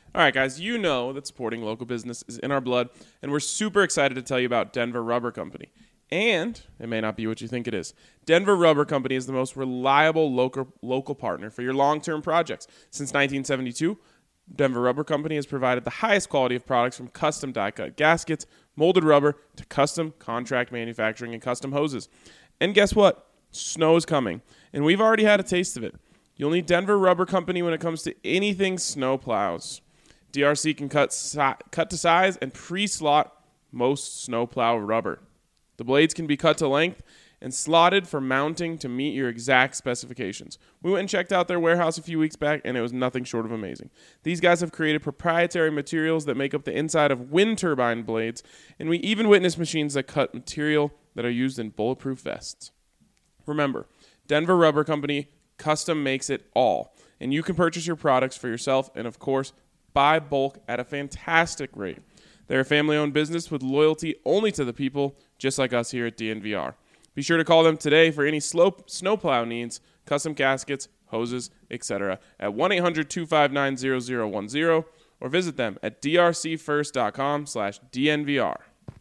All right, guys, you know that supporting local business is in our blood, and we're super excited to tell you about Denver Rubber Company. And it may not be what you think it is. Denver Rubber Company is the most reliable local partner for your long-term projects. Since 1972, Denver Rubber Company has provided the highest quality of products from custom die-cut gaskets, molded rubber, to custom contract manufacturing and custom hoses. And guess what? Snow is coming, and we've already had a taste of it. You'll need Denver Rubber Company when it comes to anything snow plows. DRC can cut to size and pre-slot most snowplow rubber. The blades can be cut to length and slotted for mounting to meet your exact specifications. We went and checked out their warehouse a few weeks back, and it was nothing short of amazing. These guys have created proprietary materials that make up the inside of wind turbine blades, and we even witnessed machines that cut material that are used in bulletproof vests. Remember, Denver Rubber Company custom makes it all, and you can purchase your products for yourself and, of course, buy bulk at a fantastic rate. They're a family-owned business with loyalty only to the people, just like us here at DNVR. Be sure to call them today for any snowplow needs, custom gaskets, hoses, etc. at 1-800-259-0010 or visit them at drcfirst.com/DNVR.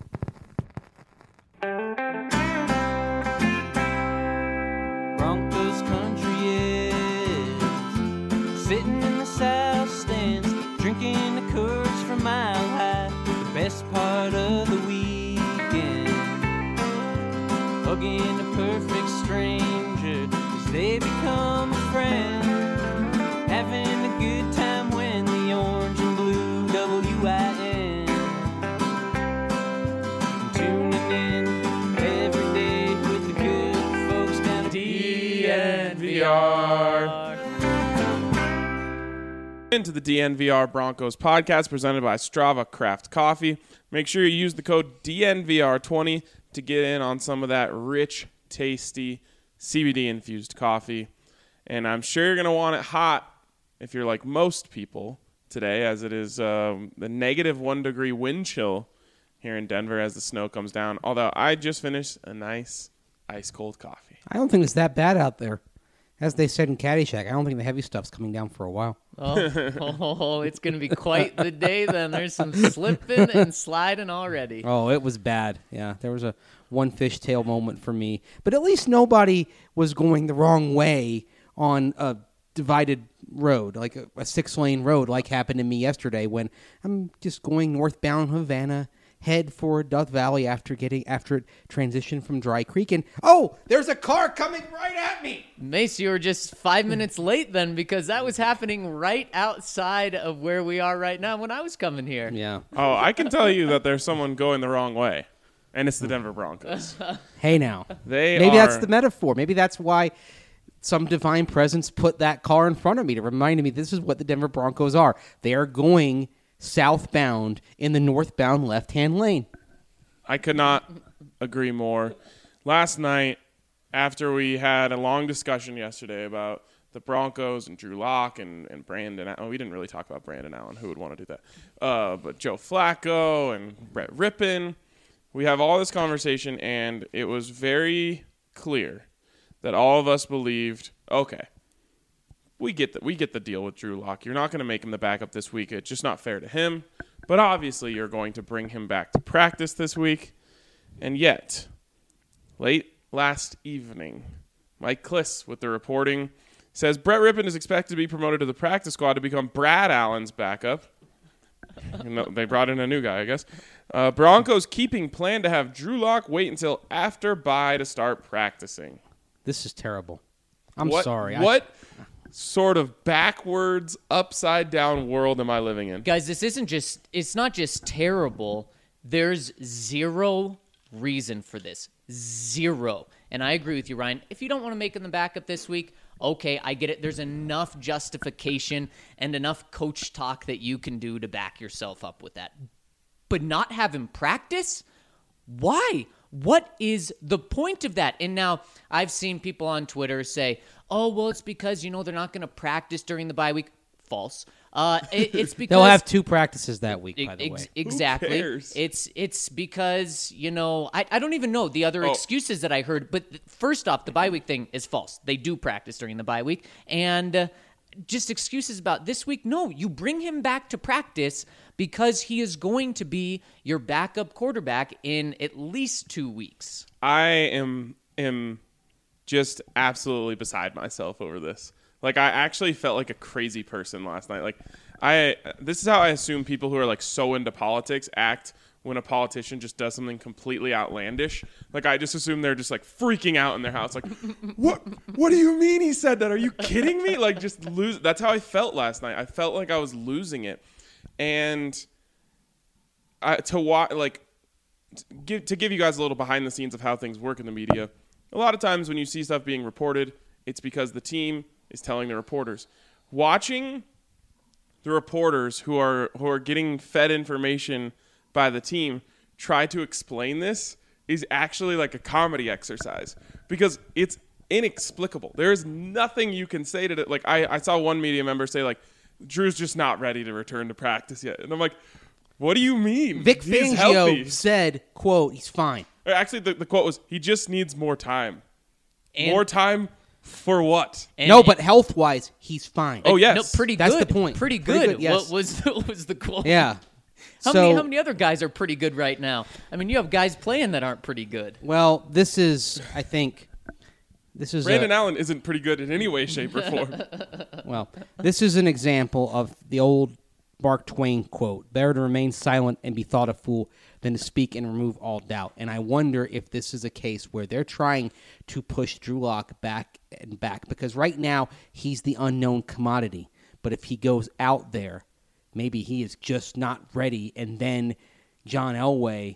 Broncos country is sitting in the south stands, drinking the Coors from Mile High. The best part of the weekend, hugging a perfect stranger as they become a friend, having a good time when the orange and blue WIN, tuning in every day with the good folks down at DNVR. Into the DNVR Broncos podcast presented by Strava Craft Coffee. Make sure you use the code DNVR20 to get in on some of that rich, tasty CBD-infused coffee. And I'm sure you're going to want it hot if you're like most people today, as it is the negative 1 degree wind chill here in Denver as the snow comes down. Although I just finished a nice ice-cold coffee. I don't think it's that bad out there. As they said in Caddyshack, I don't think the heavy stuff's coming down for a while. Oh, it's going to be quite the day then. There's some slipping and sliding already. Oh, it was bad. Yeah, there was a one fishtail moment for me. But at least nobody was going the wrong way on a divided road, like a 6-lane road, like happened to me yesterday when I'm just going northbound Havana, head for Death Valley after it transitioned from Dry Creek. And, oh, there's a car coming right at me. Mace, you were just 5 minutes late then because that was happening right outside of where we are right now when I was coming here. Yeah. Oh, I can tell you that there's someone going the wrong way, and it's the Denver Broncos. Hey, now. Maybe that's the metaphor. Maybe that's why some divine presence put that car in front of me to remind me this is what the Denver Broncos are. They are going southbound in the northbound left-hand lane. I could not agree more. Last night, after we had a long discussion yesterday about the Broncos and Drew Lock and Brandon, we didn't really talk about Brandon Allen. Who would want to do that? But Joe Flacco and Brett Rippon. We have all this conversation, and it was very clear that all of us believed, okay, we get the deal with Drew Lock. You're not going to make him the backup this week. It's just not fair to him. But obviously you're going to bring him back to practice this week. And yet, late last evening, Mike Kliss with the reporting says Brett Rippon is expected to be promoted to the practice squad to become Brad Allen's backup. They brought in a new guy, I guess. Broncos keeping plan to have Drew Lock wait until after bye to start practicing. This is terrible. I'm What- sorry. What sort of backwards, upside down world am I living in? Guys, it's not just terrible. There's zero reason for this. Zero. And I agree with you, Ryan. If you don't want to make him the backup this week, okay, I get it. There's enough justification and enough coach talk that you can do to back yourself up with that. But not have him practice? Why? What is the point of that? And now I've seen people on Twitter say, oh, well, it's because, they're not going to practice during the bye week. False. It's because They'll have 2 practices that week, by the way. Exactly. Who cares? It's because, I don't even know the other excuses that I heard. But first off, the bye week thing is false. They do practice during the bye week. And just excuses about this week. No, you bring him back to practice because he is going to be your backup quarterback in at least 2 weeks. I am just absolutely beside myself over this. Like, I actually felt like a crazy person last night. Like, this is how I assume people who are like so into politics act when a politician just does something completely outlandish. Like, I just assume they're just like freaking out in their house. Like, what do you mean he said that? Are you kidding me? Like, just lose. That's how I felt last night. I felt like I was losing it. And to give you guys a little behind the scenes of how things work in the media, a lot of times when you see stuff being reported, it's because the team is telling the reporters. Watching the reporters who are getting fed information by the team try to explain this is actually like a comedy exercise because it's inexplicable. There is nothing you can say to it. Like, I saw one media member say, like, Drew's just not ready to return to practice yet. And I'm like, what do you mean? Vic He's Fangio healthy. said, quote, he's fine. Actually, the quote was, he just needs more time. And- More time for what? No, but health-wise, he's fine. Oh, yes. No, pretty That's good. the point. Pretty Pretty good. good, yes. What was the quote? Yeah. How many other guys are pretty good right now? I mean, you have guys playing that aren't pretty good. Well, this is Brandon Allen isn't pretty good in any way, shape, or form. Well, this is an example of the old Mark Twain quote, better to remain silent and be thought a fool than to speak and remove all doubt. And I wonder if this is a case where they're trying to push Drew Lock back and back because right now he's the unknown commodity. But if he goes out there, maybe he is just not ready, and then John Elway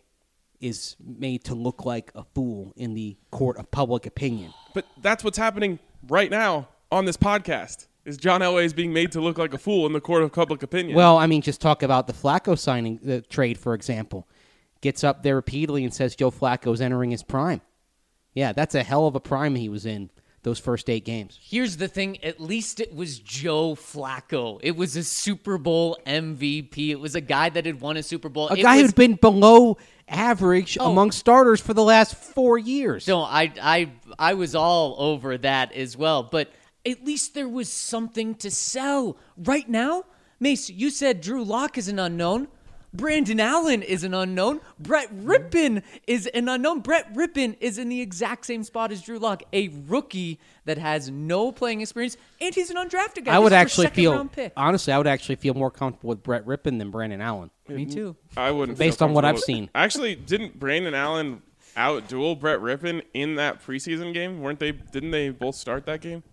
is made to look like a fool in the court of public opinion. But that's what's happening right now on this podcast. Is John Elway is being made to look like a fool in the court of public opinion. Well, I mean, just talk about the Flacco signing, the trade, for example. Gets up there repeatedly and says Joe Flacco's entering his prime. Yeah, that's a hell of a prime he was in those first 8 games. Here's the thing. At least it was Joe Flacco. It was a Super Bowl MVP. It was a guy that had won a Super Bowl. A guy who'd been below average among starters for the last 4 years. No, I was all over that as well. But at least there was something to sell. Right now, Mace, you said Drew Lock is an unknown. Brandon Allen is an unknown. Brett Rippon is an unknown. Brett Rippon is in the exact same spot as Drew Lock, a rookie that has no playing experience, and he's an undrafted guy. I would This is actually their feel, second-round pick. honestly, I would actually feel more comfortable with Brett Rippon than Brandon Allen. Me too. I wouldn't. Based feel on what I've comfortable seen. with- Actually, didn't Brandon Allen out-duel Brett Rippon in that preseason game? Weren't they? Didn't they both start that game?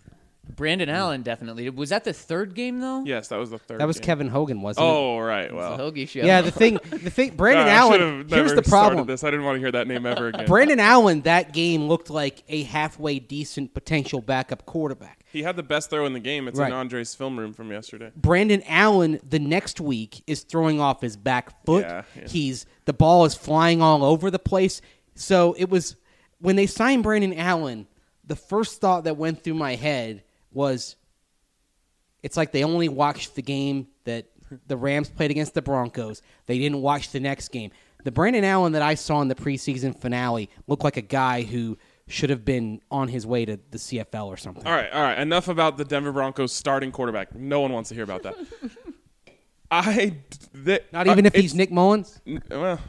Brandon Allen definitely. Was that the third game, though? Yes, that was the third. That was game. Kevin Hogan, wasn't it? Oh, right. The Well, Hoagie Show. Yeah, the thing, Brandon I Allen, should've here's never the problem. started this. I didn't want to hear that name ever again. Brandon Allen, that game looked like a halfway decent potential backup quarterback. He had the best throw in the game. It's Right. in Andre's film room from yesterday. Brandon Allen the next week is throwing off his back foot. Yeah. The ball is flying all over the place. So it was when they signed Brandon Allen, the first thought that went through my head was it's like they only watched the game that the Rams played against the Broncos. They didn't watch the next game. The Brandon Allen that I saw in the preseason finale looked like a guy who should have been on his way to the CFL or something. All right. Enough about the Denver Broncos starting quarterback. No one wants to hear about that. Not even if he's Nick Mullins? Well,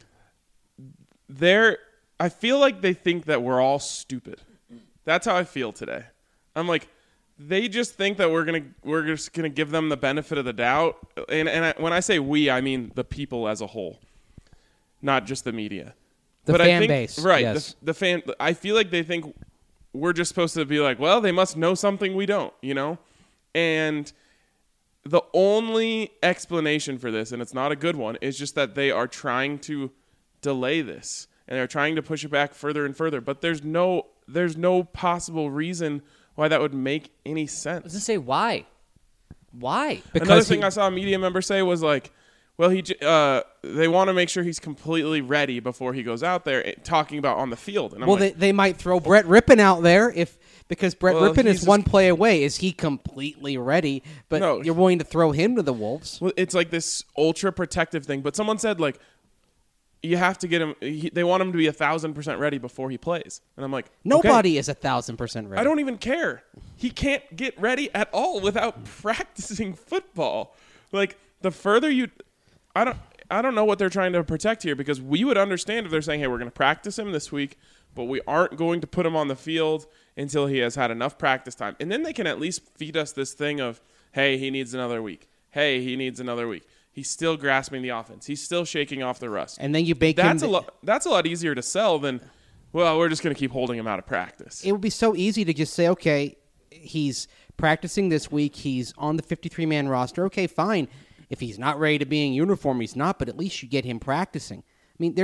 I feel like they think that we're all stupid. That's how I feel today. I'm like, they just think that we're just gonna give them the benefit of the doubt. When I say we, I mean the people as a whole, not just the media. The fan I think, base, right? yes. The fan. I feel like they think we're just supposed to be like, well, they must know something we don't, And the only explanation for this, and it's not a good one, is just that they are trying to delay this and they're trying to push it back further and further. But there's no possible reason why that would make any I was sense. going to say, why? Why? Another thing I saw a media member say was like, well, they want to make sure he's completely ready before he goes out there, talking about on the field. And I'm Well, like, they might throw Brett Rippon out there because Brett Rippon he's is one play away. Is he completely ready? But No. you're willing to throw him to the Wolves. well, it's like this ultra protective thing. But someone said like, you have to get him. They want him to be 1,000% ready before he plays, and I'm like, Nobody okay. is 1,000% ready. I don't even care. He can't get ready at all without practicing football. Like the further you, I don't know what they're trying to protect here, because we would understand if they're saying, hey, we're going to practice him this week, but we aren't going to put him on the field until he has had enough practice time, and then they can at least feed us this thing of, hey, he needs another week. Hey, he needs another week. He's still grasping the offense. He's still shaking off the rust. And then you bake That's him. That's a lot easier to sell than, well, we're just going to keep holding him out of practice. It would be so easy to just say, okay, he's practicing this week. He's on the 53-man roster. Okay, fine. If he's not ready to be in uniform, he's not, but at least you get him practicing. I mean,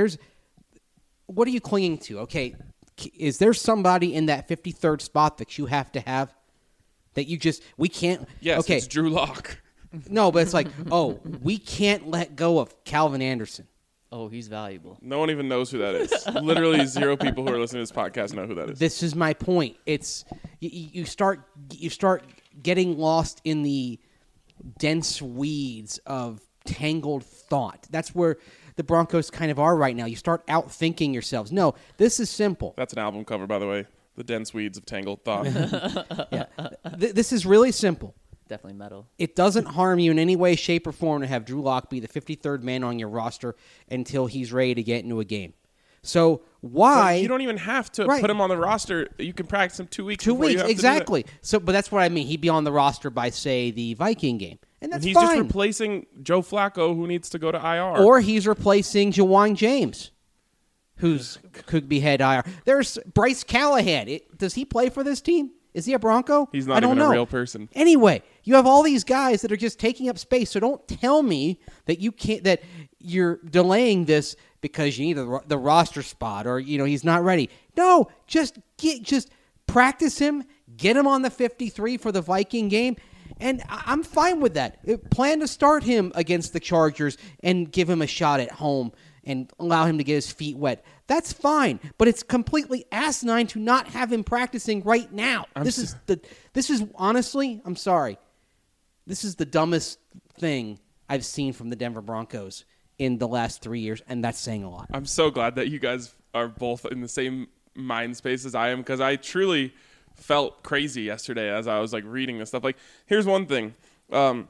what are you clinging to? Okay, is there somebody in that 53rd spot that you have to have that we can't? Yes, okay. It's Drew Lock. No, but it's like, we can't let go of Calvin Anderson. Oh, he's valuable. No one even knows who that is. Literally 0 people who are listening to this podcast know who that is. This is my point. It's you start getting lost in the dense weeds of tangled thought. That's where the Broncos kind of are right now. You start outthinking yourselves. No, this is simple. That's an album cover, by the way. The dense weeds of tangled thought. Yeah. This is really simple. Definitely metal. It doesn't harm you in any way, shape, or form to have Drew Lock be the 53rd man on your roster until he's ready to get into a game. So why? But you don't even have to put him on the roster. You can practice him 2 weeks. 2 before you weeks, have exactly. To do So, but that's what I mean. He'd be on the roster by, say, the Viking game, and that's he's fine. just replacing Joe Flacco, who needs to go to IR. Or he's replacing Jawan James, who's could be head IR. There's Bryce Callahan. Does he play for this team? Is he a Bronco? He's not I don't even know. a real person. Anyway, you have all these guys that are just taking up space. So don't tell me that you can't. That you're delaying this because you need the roster spot, or he's not ready. No, just practice him, get him on the 53 for the Viking game, and I'm fine with that. Plan to start him against the Chargers and give him a shot at home and allow him to get his feet wet. That's fine, but it's completely asinine to not have him practicing right now. This is honestly, I'm sorry, this is the dumbest thing I've seen from the Denver Broncos in the last 3 years, and that's saying a lot. I'm so glad that you guys are both in the same mind space as I am, because I truly felt crazy yesterday as I was reading this stuff. Here's one thing from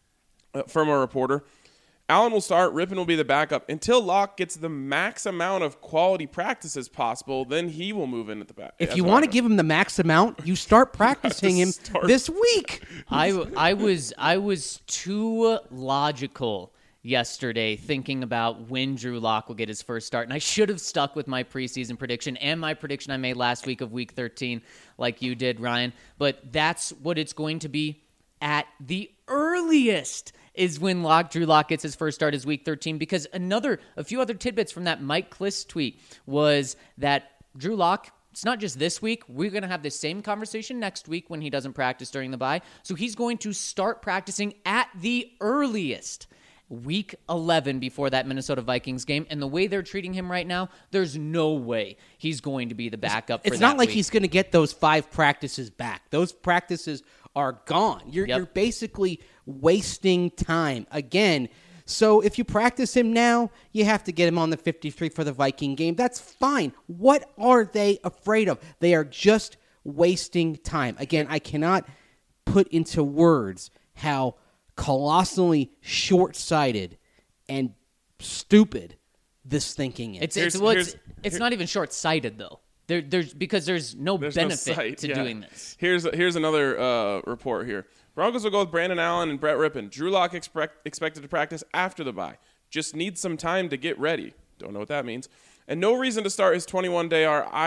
a reporter. Allen will start, Rippon will be the backup. Until Locke gets the max amount of quality practice as possible, then he will move in at the back. If you want to give him the max amount, you start practicing him this week. I was too logical yesterday thinking about when Drew Lock will get his first start, and I should have stuck with my preseason prediction and my prediction I made last week of Week 13 like you did, Ryan. But that's what it's going to be at the earliest, is when Drew Lock gets his first start is Week 13, because a few other tidbits from that Mike Kliss tweet was that Drew Lock, it's not just this week. We're going to have the same conversation next week when he doesn't practice during the bye. So he's going to start practicing at the earliest Week 11 before that Minnesota Vikings game. And the way they're treating him right now, there's no way he's going to be the backup for that. It's not like week. he's going to get those 5 practices back. Those practices are gone. You're basically wasting time again. So if you practice him now, you have to get him on the 53 for the Viking game. That's fine. What are they afraid of? They are just wasting time. Again, I cannot put into words how colossally short-sighted and stupid this thinking is. It's not even short-sighted though. Because there's no benefit to doing this. Here's another report here. Broncos will go with Brandon Allen and Brett Rippon. Drew Lock expected to practice after the bye. Just needs some time to get ready. Don't know what that means. And no reason to start his 21-day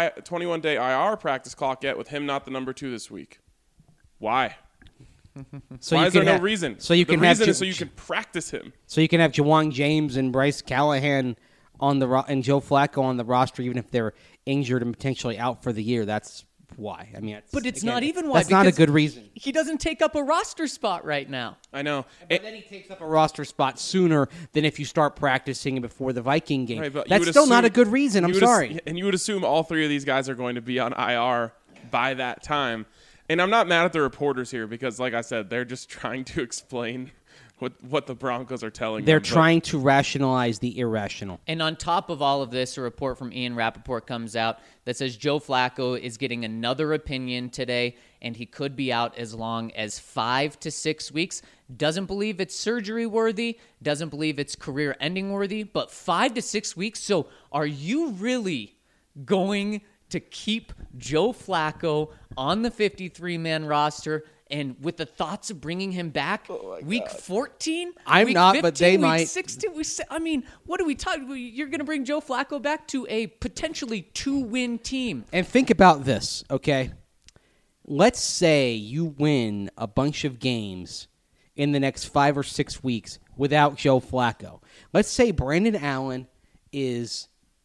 IR practice clock yet with him not the number 2 this week. Why? Why is there no reason? So you the can reason have is so you can practice him. So you can have Jawan James and Bryce Callahan on and Joe Flacco on the roster, even if they're injured and potentially out for the year. That's why. I mean, but it's not even why. That's not a good reason. He doesn't take up a roster spot right now. I know. But then he takes up a roster spot sooner than if you start practicing before the Viking game. Right, that's still not a good reason. I'm sorry. And you would assume all 3 of these guys are going to be on IR by that time. And I'm not mad at the reporters here because, like I said, they're just trying to explain what the Broncos are telling They're them. trying to rationalize the irrational. And on top of all of this, a report from Ian Rappaport comes out that says Joe Flacco is getting another opinion today, and he could be out as long as 5 to 6 weeks. Doesn't believe it's surgery worthy, doesn't believe it's career ending worthy, but 5 to 6 weeks. So are you really going to keep Joe Flacco on the 53-man roster? And with the thoughts of bringing him back week 14? I'm week not, 15, but they week might. 16, I mean, what are we talking? You're going to bring Joe Flacco back to a potentially 2-win team. And think about this, okay? Let's say you win a bunch of games in the next 5 or 6 weeks without Joe Flacco. Let's say Brandon Allen is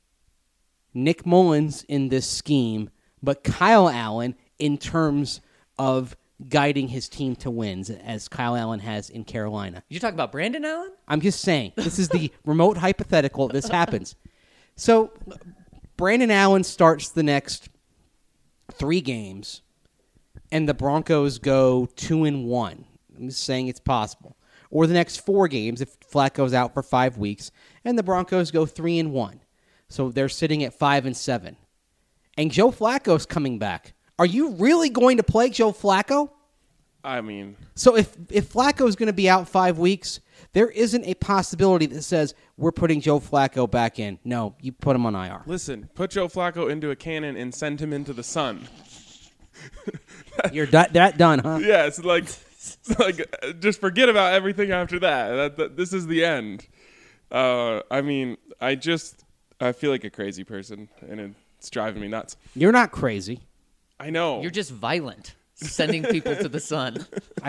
Nick Mullins in this scheme, but Kyle Allen in terms of guiding his team to wins, as Kyle Allen has in Carolina. You talking about Brandon Allen? I'm just saying, this is the remote hypothetical. This happens. So Brandon Allen starts the next 3 games, and the Broncos go 2-1. I'm just saying it's possible. Or the next 4 games, if Flacco's out for 5 weeks, and the Broncos go 3-1. So they're sitting at 5-7. And Joe Flacco's coming back. Are you really going to play Joe Flacco? I mean, So if Flacco's going to be out 5 weeks, there isn't a possibility that says we're putting Joe Flacco back in. No, you put him on IR. listen, put Joe Flacco into a cannon and send him into the sun. You're that done, huh? Yeah, it's like just forget about everything after that. This is the end. I mean, I feel like a crazy person, and it's driving me nuts. You're not crazy. I know. You're just violent, sending people to the sun.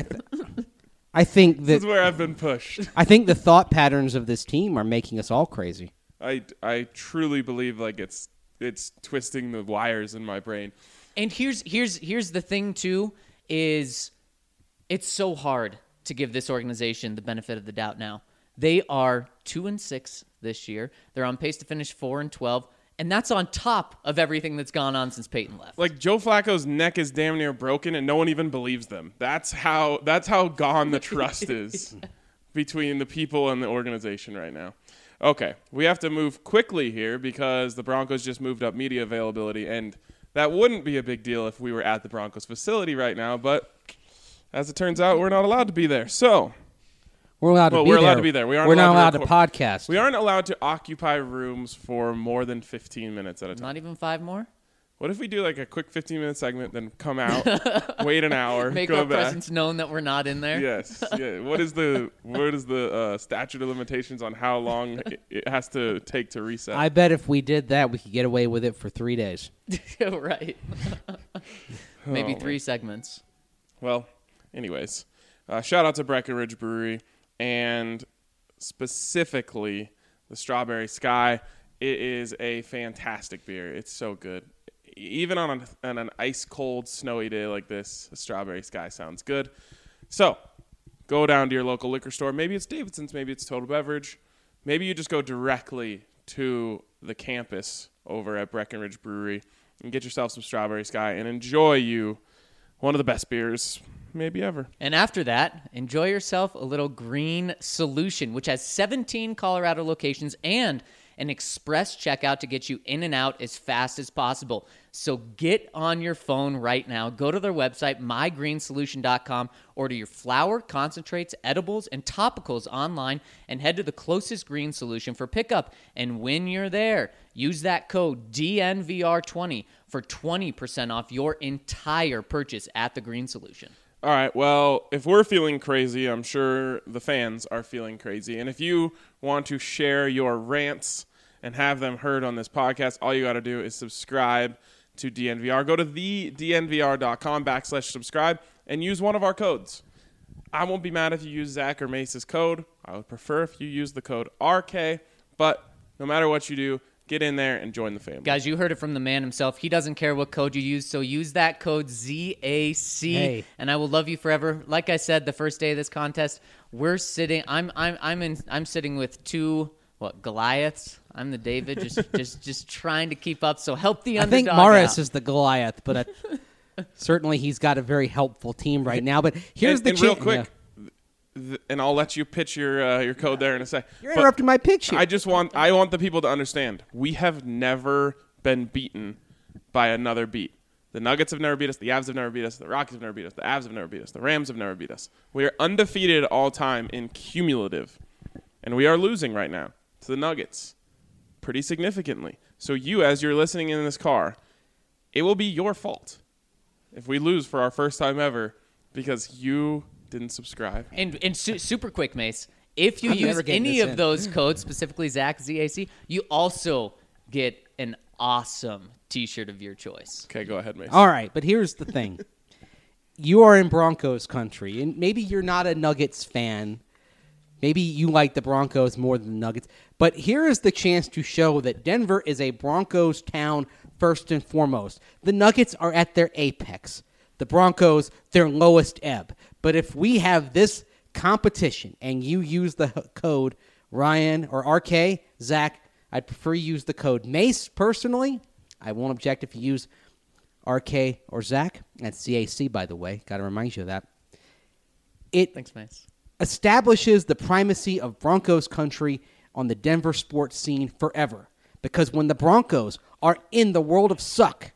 I think This is that where I've been pushed. I think the thought patterns of this team are making us all crazy. I truly believe like it's twisting the wires in my brain. And here's the thing too, is it's so hard to give this organization the benefit of the doubt now. They are 2-6 this year. They're on pace to finish 4-12. And that's on top of everything that's gone on since Peyton left. Like Joe Flacco's neck is damn near broken, and no one even believes them. That's how gone the trust is between the people and the organization right now. Okay, we have to move quickly here because the Broncos just moved up media availability, and that wouldn't be a big deal if we were at the Broncos facility right now. But as it turns out, we're not allowed to be there. So We're allowed to be we're there. allowed to be there. We aren't We're not allowed allowed to podcast. we aren't allowed to occupy rooms for more than 15 minutes at a time. Not even 5 more? What if we do like a quick 15-minute segment, then come out, wait an hour, Make go our back? presence known that we're not in there? Yes. Yeah. What is the statute of limitations on how long it has to take to reset? I bet if we did that, we could get away with it for 3 days. Right. Maybe Oh, 3 segments. Well, anyways, shout out to Breckenridge Brewery and specifically the Strawberry Sky. It is a fantastic beer. It's so good. Even on an ice cold, snowy day like this, the Strawberry Sky sounds good. So go down to your local liquor store. Maybe it's Davidson's, maybe it's Total Beverage. Maybe you just go directly to the campus over at Breckenridge Brewery and get yourself some Strawberry Sky and enjoy you one of the best beers maybe ever. And after that, enjoy yourself a little Green Solution, which has 17 Colorado locations and an express checkout to get you in and out as fast as possible. So get on your phone right now. Go to their website, mygreensolution.com. Order your flour, concentrates, edibles, and topicals online and head to the closest Green Solution for pickup. And when you're there, use that code DNVR20 for 20% off your entire purchase at the Green Solution. All right, well, if we're feeling crazy, I'm sure the fans are feeling crazy. And if you want to share your rants and have them heard on this podcast, all you got to do is subscribe to DNVR. Go to thednvr.com/subscribe and use one of our codes. I won't be mad if you use Zach or Mace's code. I would prefer if you use the code RK, but no matter what you do, get in there and join the family. Guys, you heard it from the man himself. He doesn't care what code you use, so use that code ZAC, Hey. and I will love you forever. Like I said, the first day of this contest, we're sitting. I'm sitting with 2 Goliaths. I'm the David, just trying to keep up. So help the I underdog think Morris out. is the Goliath, but Certainly, he's got a very helpful team right now. But here's and the real quick, and I'll let you pitch your code there in a sec. You're interrupting my pitch here. I want the people to understand we have never been beaten by another beat. The Nuggets have never beat us. The Avs have never beat us. The Rockets have never beat us. The Avs have never beat us. The Rams have never beat us. We are undefeated all time in cumulative, and we are losing right now to the Nuggets pretty significantly. So you, as you're listening in this car, it will be your fault if we lose for our first time ever because you didn't subscribe. And super quick, Mace. If you I'm never use getting any this of in. those codes, specifically Zach, ZAC, you also get an awesome T-shirt of your choice. Okay, go ahead, Mason. All right, but here's the thing. You are in Broncos country, and maybe you're not a Nuggets fan. Maybe you like the Broncos more than the Nuggets. But here is the chance to show that Denver is a Broncos town first and foremost. The Nuggets are at their apex. The Broncos, their lowest ebb. But if we have this competition and you use the code Ryan or RK, Zach, I'd prefer you use the code Mace personally. I won't object if you use RK or Zach. That's CAC, by the way. Got to remind you of that. Thanks, Mace. Establishes the primacy of Broncos country on the Denver sports scene forever. Because when the Broncos are in the world of suck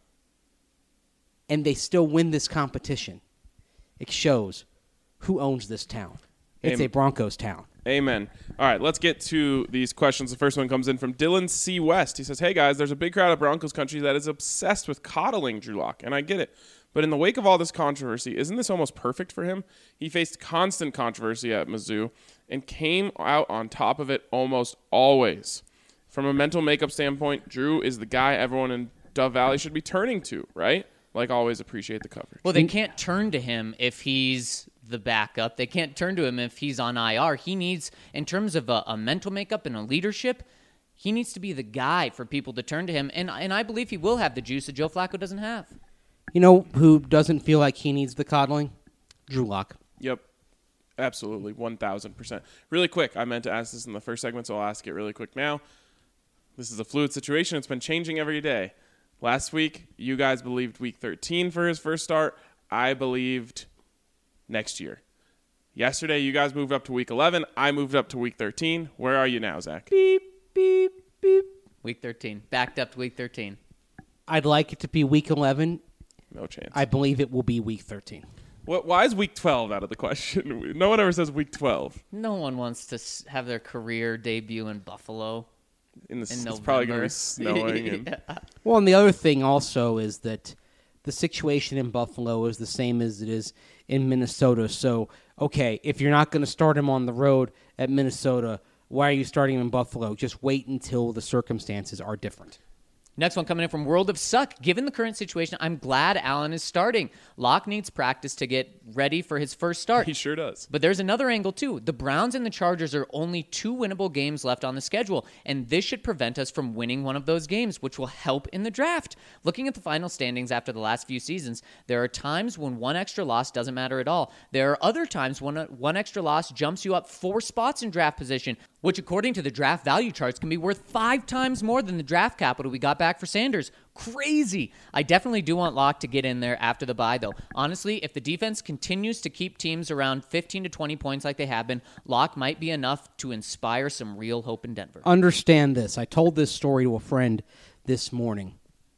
and they still win this competition, it shows who owns this town. It's a Broncos town. Amen. All right, let's get to these questions. The first one comes in from Dylan C. West. He says, hey, guys, there's a big crowd of Broncos country that is obsessed with coddling Drew Lock, and I get it. But in the wake of all this controversy, isn't this almost perfect for him? He faced constant controversy at Mizzou and came out on top of it almost always. From a mental makeup standpoint, Drew is the guy everyone in Dove Valley should be turning to, right? Like always, appreciate the coverage. Well, they can't turn to him if he's the backup. They can't turn to him if he's on IR. He needs, in terms of a mental makeup and a leadership, he needs to be the guy for people to turn to him. And I believe he will have the juice that Joe Flacco doesn't have. You know who doesn't feel like he needs the coddling? Drew Lock. Yep. Absolutely. 1,000%. Really quick, I meant to ask this in the first segment, so I'll ask it really quick now. This is a fluid situation. It's been changing every day. Last week, you guys believed week 13 for his first start. I believed next year. Yesterday, you guys moved up to week 11. I moved up to week 13. Where are you now, Zach? Beep, beep, beep. Week 13. Backed up to week 13. I'd like it to be week 11. No chance. I believe it will be week 13. Why is week 12 out of the question? No one ever says week 12. No one wants to have their career debut in Buffalo. It's November. probably going to be snowing. Yeah. Well, and the other thing also is that the situation in Buffalo is the same as it is in Minnesota. So, okay, if you're not going to start him on the road at Minnesota, why are you starting him in Buffalo? Just wait until the circumstances are different. Next one coming in from World of Suck. Given the current situation, I'm glad Allen is starting. Locke needs practice to get ready for his first start. He sure does. But there's another angle, too. The Browns and the Chargers are only 2 winnable games left on the schedule, and this should prevent us from winning one of those games, which will help in the draft. Looking at the final standings after the last few seasons, there are times when one extra loss doesn't matter at all. There are other times when one extra loss jumps you up 4 spots in draft position, which according to the draft value charts can be worth 5 times more than the draft capital we got back for Sanders. Crazy. I definitely do want Locke to get in there after the bye, though. Honestly, if the defense continues to keep teams around 15 to 20 points like they have been, Locke might be enough to inspire some real hope in Denver. Understand this. I told this story to a friend this morning.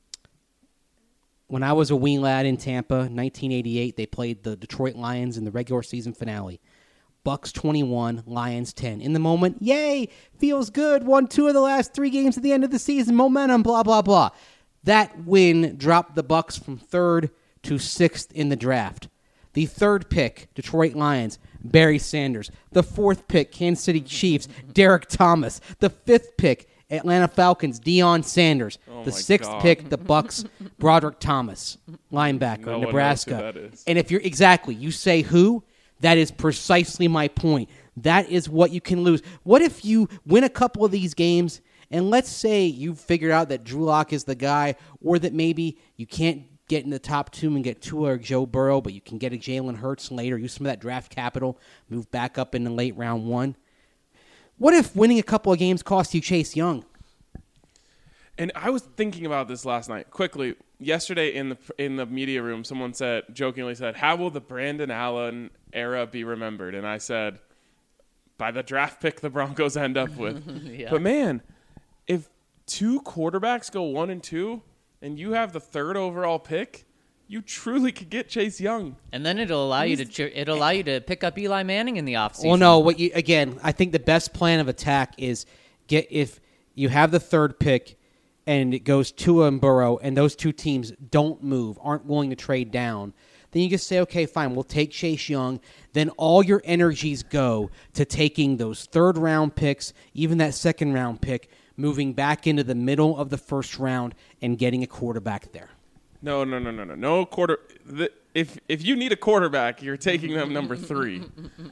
When I was a wee lad in Tampa, 1988, they played the Detroit Lions in the regular season finale. Bucks 21, Lions 10. In the moment, yay, feels good. Won 2 of the last 3 games at the end of the season. Momentum, blah, blah, blah. That win dropped the Bucks from 3rd to 6th in the draft. The 3rd pick, Detroit Lions, Barry Sanders. The 4th pick, Kansas City Chiefs, Derek Thomas. The 5th pick, Atlanta Falcons, Deion Sanders. The 6th pick, the Bucks, Broderick Thomas, linebacker, No one knows Nebraska. who that is. And if you're you say who? That is precisely my point. That is what you can lose. What if you win a couple of these games, and let's say you figure out that Drew Lock is the guy, or that maybe you can't get in the top 2 and get Tua or Joe Burrow, but you can get a Jalen Hurts later, use some of that draft capital, move back up in the late round 1. What if winning a couple of games cost you Chase Young? And I was thinking about this last night. Quickly, yesterday in the media room, someone jokingly said, "How will the Brandon Allen era be remembered?" And I said, "By the draft pick the Broncos end up with." Yeah. But man, if 2 quarterbacks go 1 and 2, and you have the 3rd overall pick, you truly could get Chase Young. And then it'll allow you to pick up Eli Manning in the offseason. Well, no. Again, I think the best plan of attack is if you have the 3rd pick and it goes Tua and Burrow, and those 2 teams don't move, aren't willing to trade down, then you just say, okay, fine, we'll take Chase Young. Then all your energies go to taking those 3rd-round picks, even that 2nd-round pick, moving back into the middle of the 1st round and getting a quarterback there. No. No quarter. If you need a quarterback, you're taking them number 3.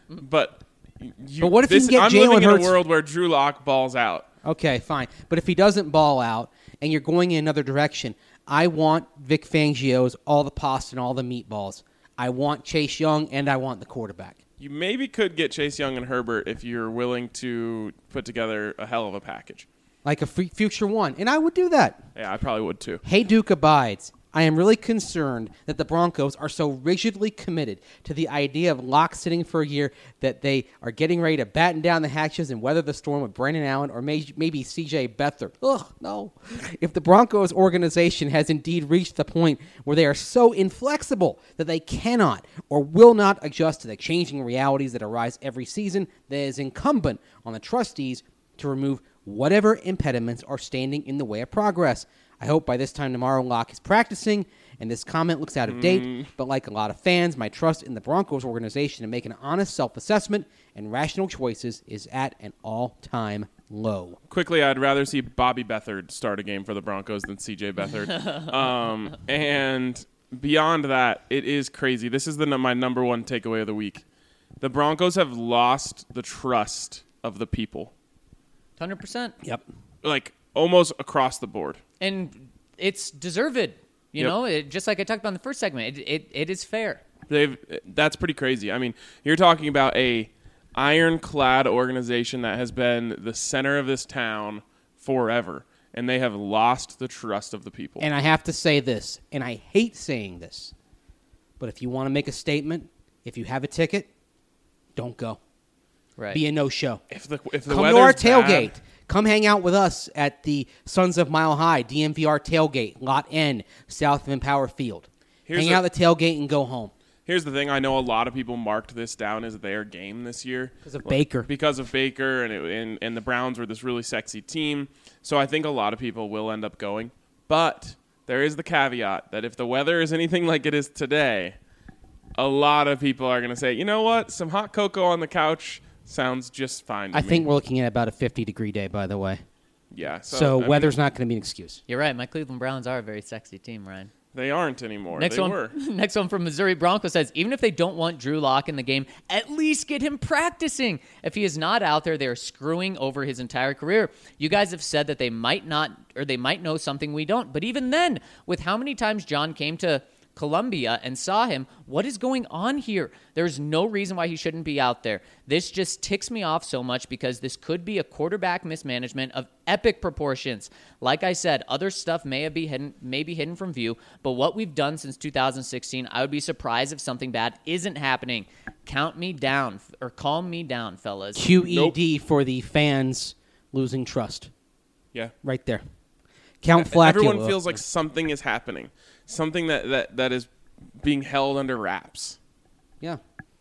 But what if you can get I'm Jalen living Hurts? in a world where Drew Lock balls out. Okay, fine. But if he doesn't ball out and you're going in another direction, I want Vic Fangio's all the pasta and all the meatballs. I want Chase Young, and I want the quarterback. You maybe could get Chase Young and Herbert if you're willing to put together a hell of a package. Like a future one. And I would do that. Yeah, I probably would too. Hey, Duke abides. I am really concerned that the Broncos are so rigidly committed to the idea of Locke sitting for a year that they are getting ready to batten down the hatches and weather the storm with Brandon Allen or maybe C.J. Beathard. Ugh, no. If the Broncos organization has indeed reached the point where they are so inflexible that they cannot or will not adjust to the changing realities that arise every season, that it is incumbent on the trustees to remove whatever impediments are standing in the way of progress. I hope by this time tomorrow Locke is practicing and this comment looks out of date, but like a lot of fans, my trust in the Broncos organization to make an honest self-assessment and rational choices is at an all-time low. Quickly, I'd rather see Bobby Beathard start a game for the Broncos than C.J. Beathard. And beyond that, it is crazy. This is my number one takeaway of the week. The Broncos have lost the trust of the people. 100%. Yep. Like, almost across the board. And it's deserved. You know, just like I talked about in the first segment, it is fair. That's pretty crazy. I mean, you're talking about a ironclad organization that has been the center of this town forever, and they have lost the trust of the people. And I have to say this, and I hate saying this, but if you want to make a statement, if you have a ticket, don't go. Right. Be a no-show. If the Come weather's to our bad, tailgate. Come hang out with us at the Sons of Mile High, DMVR tailgate, Lot N, south of Empower Field. Hang out at the tailgate and go home. Here's the thing. I know a lot of people marked this down as their game this year. Because of Baker. Because of Baker, and the Browns were this really sexy team. So I think a lot of people will end up going. But there is the caveat that if the weather is anything like it is today, a lot of people are going to say, you know what, some hot cocoa on the couch sounds just fine to I me. think we're looking at about a 50-degree day, by the way. Yeah. So weather's not going to be an excuse. You're right. My Cleveland Browns are a very sexy team, Ryan. They aren't anymore. Next they one, were. Next one from Missouri Broncos says, even if they don't want Drew Lock in the game, at least get him practicing. If he is not out there, they're screwing over his entire career. You guys have said that they might not, or they might know something we don't. But even then, with how many times John came to Columbia and saw him, what is going on here? There's no reason why he shouldn't be out there. This just ticks me off so much because this could be a quarterback mismanagement of epic proportions. Like I said, other stuff may be hidden from view, but what we've done since 2016, I would be surprised if something bad isn't happening. Count me down, or calm me down, fellas. QED for the fans losing trust. Yeah. Right there. Count Flacula. Everyone feels like something is happening. Something that is being held under wraps. Yeah.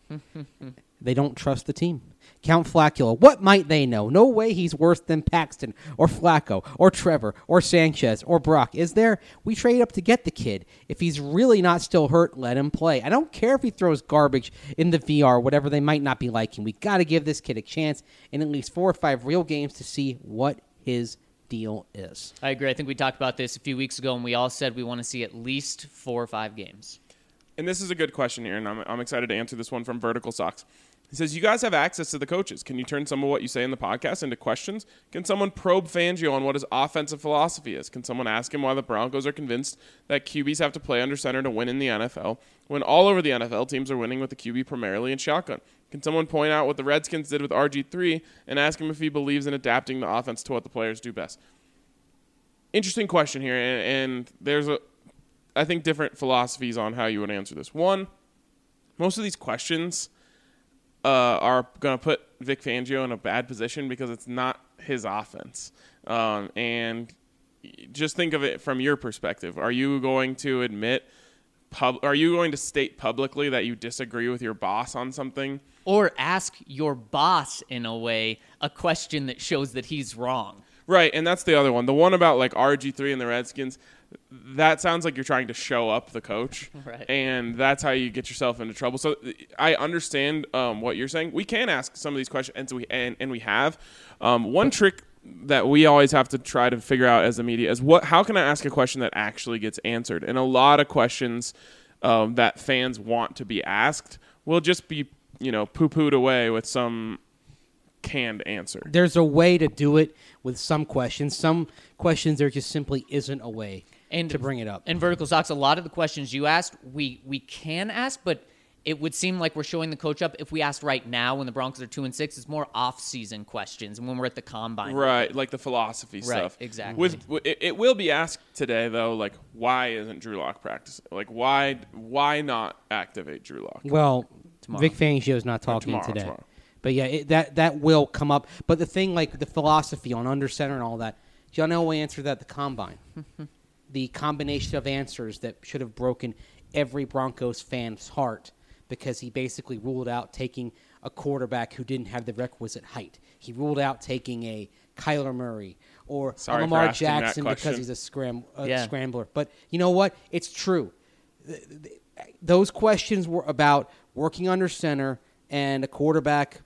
They don't trust the team. Count Flacula. What might they know? No way he's worse than Paxton or Flacco or Trevor or Sanchez or Brock. Is there? We trade up to get the kid. If he's really not still hurt, let him play. I don't care if he throws garbage in the VR, whatever they might not be liking. We got to give this kid a chance in at least 4 or 5 real games to see what his deal is. I agree. I think we talked about this a few weeks ago, and we all said we want to see at least 4 or 5 games. And this is a good question here, and I'm excited to answer this one from Vertical Sox. He says, you guys have access to the coaches. Can you turn some of what you say in the podcast into questions? Can someone probe Fangio on what his offensive philosophy is? Can someone ask him why the Broncos are convinced that QBs have to play under center to win in the NFL when all over the NFL teams are winning with the QB primarily in shotgun? Can someone point out what the Redskins did with RG3 and ask him if he believes in adapting the offense to what the players do best? interesting question here, and there's I think different philosophies on how you would answer this. One, most of these questions are going to put Vic Fangio in a bad position because it's not his offense. And just think of it from your perspective. Are you going to are you going to state publicly that you disagree with your boss on something? Or ask your boss, in a way, a question that shows that he's wrong. Right, and that's the other one. The one about like RG3 and the Redskins, that sounds like you're trying to show up the coach. Right. And that's how you get yourself into trouble. So I understand what you're saying. We can ask some of these questions, and we have. One trick that we always have to try to figure out as the media is how can I ask a question that actually gets answered? And a lot of questions that fans want to be asked will just be, poo-pooed away with some canned answer. There's a way to do it with some questions. Some questions there just simply isn't a way to bring it up. And Vertical Sox, a lot of the questions you asked, we can ask, but it would seem like we're showing the coach up if we asked right now when the Broncos are 2-6. It's more off-season questions and when we're at the combine. Right, like the philosophy stuff. Right, exactly. It will be asked today, though, like, why isn't Drew Lock practicing? Like, why not activate Drew Lock? Well, Vic Fangio is not talking today. Tomorrow. But yeah, that will come up. But the thing, like the philosophy on under center and all that, John Elway answered that at the combine. The combination of answers that should have broken every Broncos fan's heart because he basically ruled out taking a quarterback who didn't have the requisite height. He ruled out taking a Kyler Murray or a Lamar Jackson because he's a scrambler. But you know what? It's true. Those questions were about working under center and a quarterback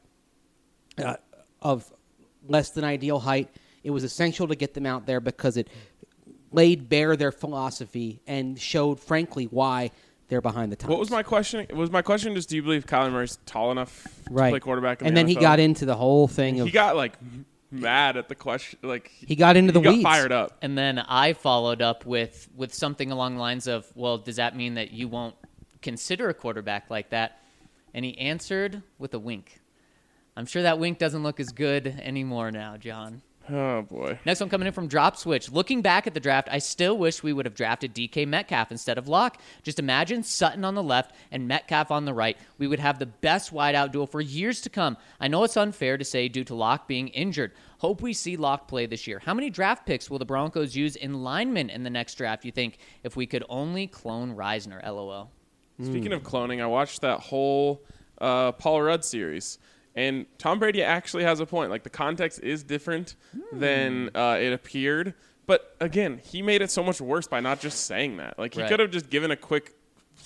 of less than ideal height. It was essential to get them out there because it laid bare their philosophy and showed, frankly, why they're behind the times. What was my question? Was my question just, do you believe Kyler Murray's tall enough to play quarterback in and the then NFL? He got into the whole thing of... He got, mad at the question. He got into the weeds. He got fired up. And then I followed up with something along the lines of, well, does that mean that you won't consider a quarterback like that? And he answered with a wink. I'm sure that wink doesn't look as good anymore now, John. Oh, boy. Next one coming in from Drop Switch. Looking back at the draft, I still wish we would have drafted DK Metcalf instead of Locke. Just imagine Sutton on the left and Metcalf on the right. We would have the best wideout duo for years to come. I know it's unfair to say due to Locke being injured. Hope we see Locke play this year. How many draft picks will the Broncos use in linemen in the next draft, you think, if we could only clone Reisner? LOL. Speaking of cloning, I watched that whole Paul Rudd series. And Tom Brady actually has a point. Like, the context is different than it appeared. But, again, he made it so much worse by not just saying that. Like, he could have just given a quick,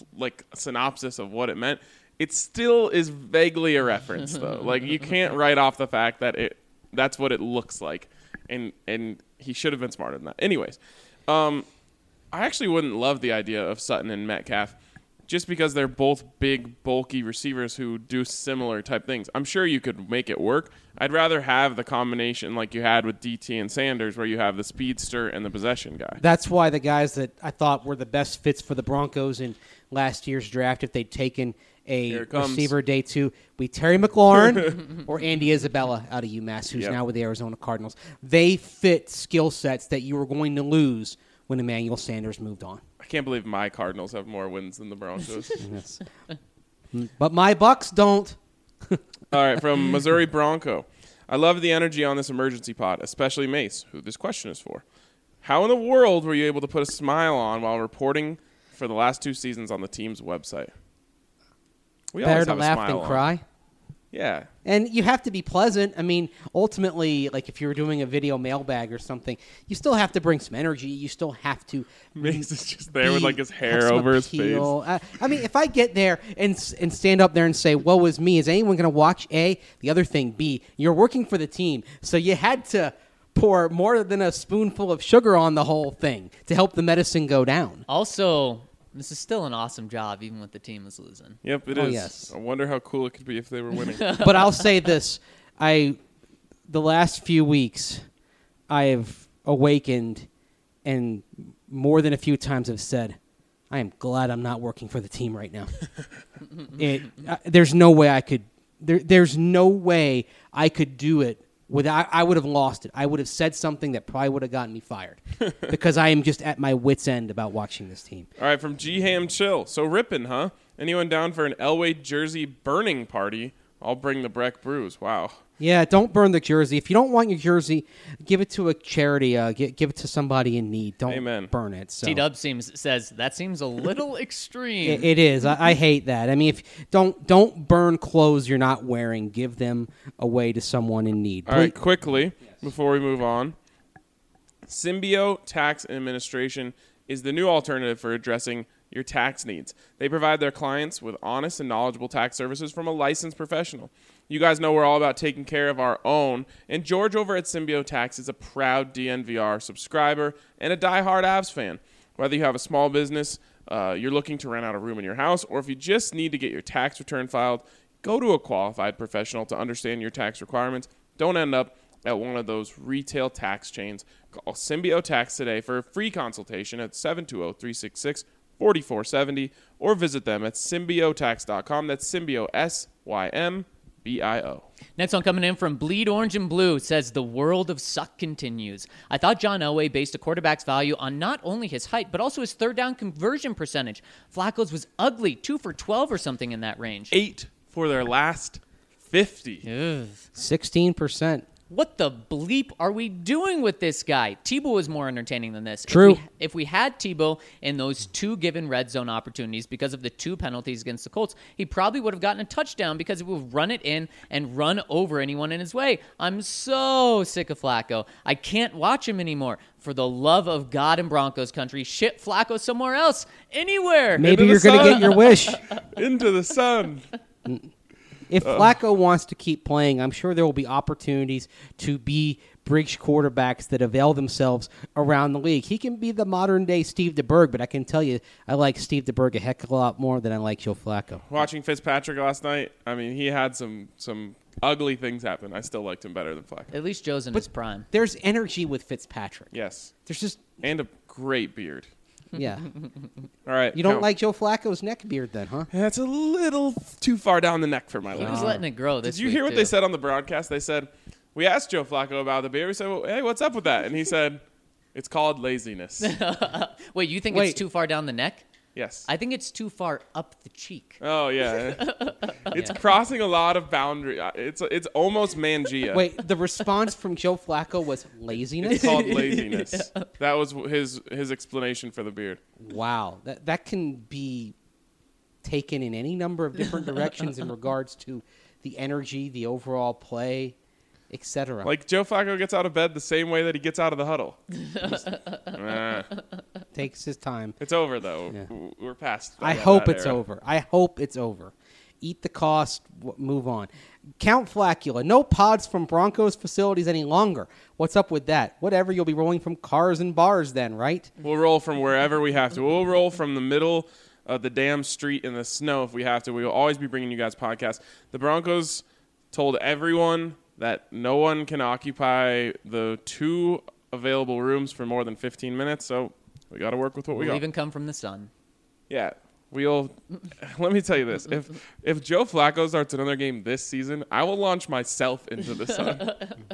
synopsis of what it meant. It still is vaguely a reference, though. Like, you can't write off the fact that that's what it looks like. And he should have been smarter than that. Anyways, I actually wouldn't love the idea of Sutton and Metcalf, just because they're both big, bulky receivers who do similar type things. I'm sure you could make it work. I'd rather have the combination like you had with DT and Sanders, where you have the speedster and the possession guy. That's why the guys that I thought were the best fits for the Broncos in last year's draft, if they'd taken a receiver day 2, be Terry McLaurin or Andy Isabella out of UMass, who's now with the Arizona Cardinals. They fit skill sets that you were going to lose when Emmanuel Sanders moved on. I can't believe my Cardinals have more wins than the Broncos. Yes. But my Bucks don't. All right, from Missouri Bronco. I love the energy on this emergency pod, especially Mace, who this question is for. How in the world were you able to put a smile on while reporting for the last 2 seasons on the team's website? We Better always to have a laugh smile than on. cry. Yeah. And you have to be pleasant. I mean, ultimately, like if you're doing a video mailbag or something, you still have to bring some energy. You still have to. Mace is just there with his hair over his face. I mean, if I get there and stand up there and say, "Woe is me," is anyone going to watch? A. The other thing, B. You're working for the team, so you had to pour more than a spoonful of sugar on the whole thing to help the medicine go down. Also, this is still an awesome job, even with the team is losing. Yep, it is. Yes. I wonder how cool it could be if they were winning. But I'll say this: the last few weeks, I have awakened, and more than a few times have said, "I am glad I'm not working for the team right now." There's no way I could. There's no way I could do it I would have lost it. I would have said something that probably would have gotten me fired because I am just at my wit's end about watching this team. All right, from G-Ham Chill. So ripping, huh? Anyone down for an Elway jersey burning party? I'll bring the Breck Brews. Wow. Yeah, don't burn the jersey. If you don't want your jersey, give it to a charity. Give it to somebody in need. Don't burn it. So. T-Dub says that seems a little extreme. It is. I hate that. I mean, if don't burn clothes you're not wearing. Give them away to someone in need. All right, quickly, before we move on. Symbio Tax Administration is the new alternative for addressing your tax needs. They provide their clients with honest and knowledgeable tax services from a licensed professional. You guys know we're all about taking care of our own, and George over at Symbio Tax is a proud DNVR subscriber and a diehard Avs fan. Whether you have a small business, you're looking to rent out a room in your house, or if you just need to get your tax return filed, go to a qualified professional to understand your tax requirements. Don't end up at one of those retail tax chains. Call Symbio Tax today for a free consultation at 720-366-4470 or visit them at symbiotax.com. That's Symbio, SYMBIO. Next one coming in from Bleed Orange and Blue says, the world of suck continues. I thought John Elway based a quarterback's value on not only his height, but also his third down conversion percentage. Flacco's was ugly, 2 for 12 or something in that range. 8 for their last 50. 16%. What the bleep are we doing with this guy? Tebow was more entertaining than this. True. If we had Tebow in those 2 given red zone opportunities because of the 2 penalties against the Colts, he probably would have gotten a touchdown because he would run it in and run over anyone in his way. I'm so sick of Flacco. I can't watch him anymore. For the love of God and Broncos country, ship Flacco somewhere else, anywhere. Maybe you're going to get your wish. Into the sun. If Flacco wants to keep playing, I'm sure there will be opportunities to be bridge quarterbacks that avail themselves around the league. He can be the modern-day Steve DeBerg, but I can tell you I like Steve DeBerg a heck of a lot more than I like Joe Flacco. Watching Fitzpatrick last night, I mean, he had some ugly things happen. I still liked him better than Flacco. At least Joe's in his prime. There's energy with Fitzpatrick. Yes. There's just... And a great beard. Yeah. All right. You don't like Joe Flacco's neck beard then, huh? That's a little too far down the neck for my He liking. was letting it grow this Did you week, hear what too. they said on the broadcast? They said, we asked Joe Flacco about the beard. We said, well, hey, what's up with that? And he said, it's called laziness. Wait, you think Wait. it's too far down the neck? Yes. I think it's too far up the cheek. Oh, yeah. It's crossing a lot of boundary. It's almost Mangia. Wait, the response from Joe Flacco was laziness? It's called laziness. That was his explanation for the beard. Wow. That can be taken in any number of different directions in regards to the energy, the overall play, etc. Like Joe Flacco gets out of bed the same way that he gets out of the huddle. Takes his time. It's over, though. Yeah. We're past I that hope it's era. over. I hope it's over. Eat the cost, move on. Count Flacula. No pods from Broncos facilities any longer. What's up with that? Whatever, you'll be rolling from cars and bars then, right? We'll roll from wherever we have to. We'll roll from the middle of the damn street in the snow if we have to. We will always be bringing you guys podcasts. The Broncos told everyone that no one can occupy the 2 available rooms for more than 15 minutes, so we got to work with what we We'll got. even come from the sun. Yeah. Let me tell you this. If Joe Flacco starts another game this season, I will launch myself into the sun.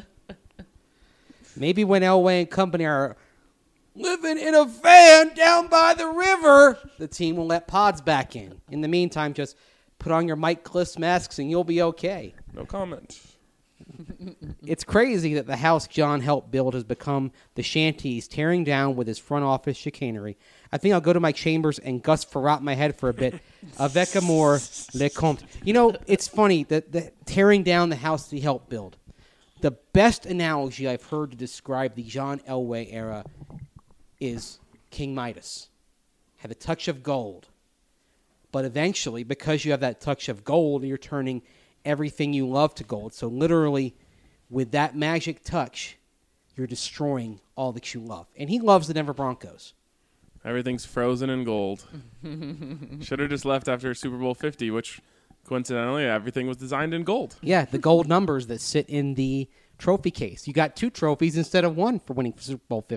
Maybe when Elway and company are living in a van down by the river, the team will let pods back in. In the meantime, just put on your Mike Kliss masks and you'll be okay. No comment. It's crazy that the house John helped build has become the shanty he's tearing down with his front office chicanery. I think I'll go to my chambers and Gus Farrat my head for a bit. Avec amour, le comte. You know, it's funny that tearing down the house he helped build. The best analogy I've heard to describe the John Elway era is King Midas. Had a touch of gold. But eventually, because you have that touch of gold, you're turning everything you love to gold. So literally, with that magic touch, you're destroying all that you love. And he loves the Denver Broncos. Everything's frozen in gold. Should have just left after Super Bowl 50, which coincidentally, everything was designed in gold. Yeah, the gold numbers that sit in the trophy case. You got 2 trophies instead of 1 for winning Super Bowl 50.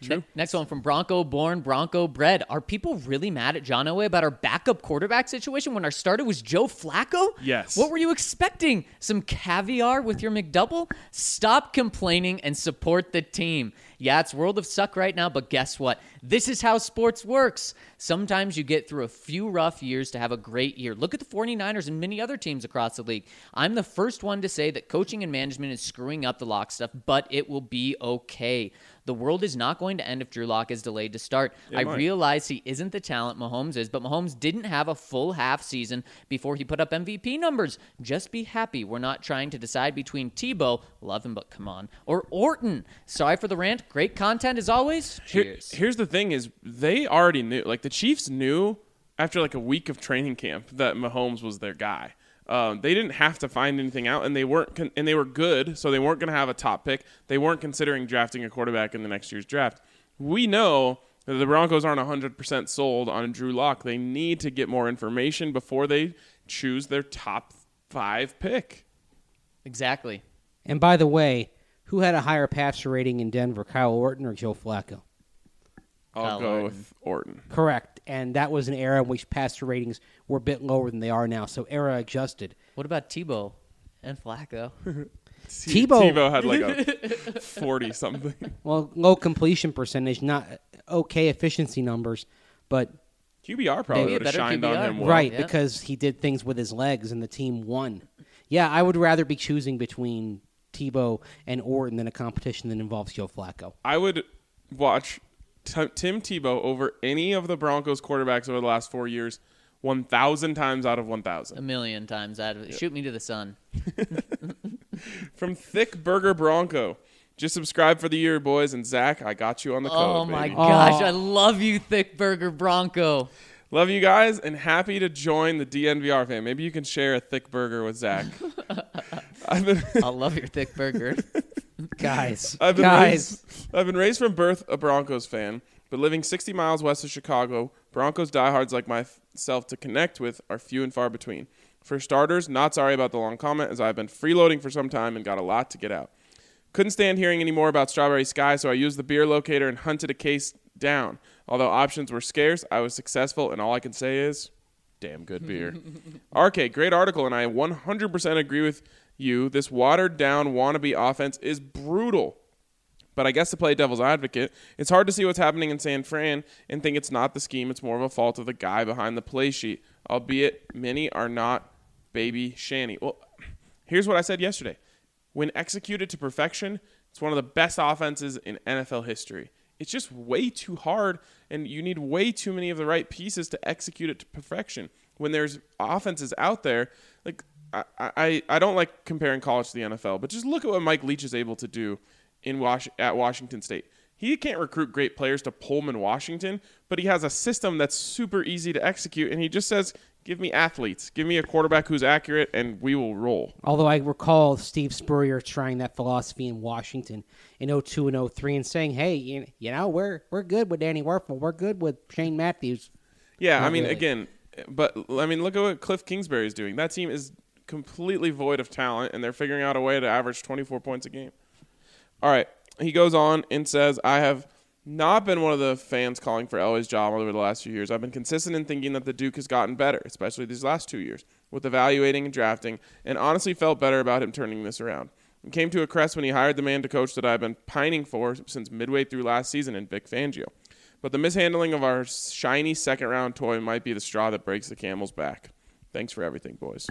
Next one from Bronco born, Bronco bred. Are people really mad at John Elway about our backup quarterback situation when our starter was Joe Flacco? Yes. What were you expecting? Some caviar with your McDouble? Stop complaining and support the team. Yeah, it's World of Suck right now, but guess what? This is how sports works. Sometimes you get through a few rough years to have a great year. Look at the 49ers and many other teams across the league. I'm the first one to say that coaching and management is screwing up the Lock stuff, but it will be okay. The world is not going to end if Drew Lock is delayed to start. I realize he isn't the talent Mahomes is, but Mahomes didn't have a full half season before he put up MVP numbers. Just be happy we're not trying to decide between Tebow, love him but come on, or Orton. Sorry for the rant. Great content as always. Cheers. Here's the thing is they already knew, like the Chiefs knew after like a week of training camp that Mahomes was their guy. They didn't have to find anything out, and they weren't, and they were good, so they weren't going to have a top pick. They weren't considering drafting a quarterback in the next year's draft. We know that the Broncos aren't 100% sold on Drew Lock. They need to get more information before they choose their top 5 pick. Exactly. And by the way, who had a higher passer rating in Denver, Kyle Orton or Joe Flacco? I'll go with Orton. Correct. And that was an era in which passer ratings were a bit lower than they are now. So era adjusted. What about Tebow and Flacco? Tebow had like a 40-something. Well, low completion percentage, not okay efficiency numbers, but QBR probably Maybe a would have better shined QBR. on him well. right, Yeah. because he did things with his legs and the team won. Yeah, I would rather be choosing between Tebow and Orton than a competition that involves Joe Flacco. I would watch Tim Tebow over any of the Broncos quarterbacks over the last 4 years 1,000 times out of 1,000. A million times out of it. Shoot me to the sun. From Thick Burger Bronco. Just subscribe for the year, boys. And Zach, I got you on the code. Oh my baby. gosh, I love you, Thick Burger Bronco. Love you guys and happy to join the DNVR fan. Maybe you can share a thick burger with Zach. I'll love your thick burger. Guys, I've been guys. I've been raised from birth a Broncos fan, but living 60 miles west of Chicago, Broncos diehards like myself to connect with are few and far between. For starters, not sorry about the long comment, as I've been freeloading for some time and got a lot to get out. Couldn't stand hearing any more about Strawberry Sky, so I used the beer locator and hunted a case down. Although options were scarce, I was successful, and all I can say is, damn good beer. RK, great article, and I 100% agree with you. This watered-down wannabe offense is brutal. But I guess to play devil's advocate, it's hard to see what's happening in San Fran and think it's not the scheme. It's more of a fault of the guy behind the play sheet, albeit many are not baby Shanny. Well, here's what I said yesterday. When executed to perfection, it's one of the best offenses in NFL history. It's just way too hard, and you need way too many of the right pieces to execute it to perfection. When there's offenses out there, like I don't like comparing college to the NFL, but just look at what Mike Leach is able to do at Washington State. He can't recruit great players to Pullman, Washington, but he has a system that's super easy to execute, and he just says, give me athletes. Give me a quarterback who's accurate, and we will roll. Although I recall Steve Spurrier trying that philosophy in Washington in 02 and 03 and saying, hey, you know, we're good with Danny Werfel. We're good with Shane Matthews. Yeah, Not I mean, really. again, but I mean, look at what Cliff Kingsbury is doing. That team is completely void of talent, and they're figuring out a way to average 24 points a game. All right, he goes on and says, I have not been one of the fans calling for Elway's job over the last few years. I've been consistent in thinking that the Duke has gotten better, especially these last 2 years, with evaluating and drafting, and honestly felt better about him turning this around. It came to a crest when he hired the man to coach that I've been pining for since midway through last season in Vic Fangio. But the mishandling of our shiny second-round toy might be the straw that breaks the camel's back. Thanks for everything, boys.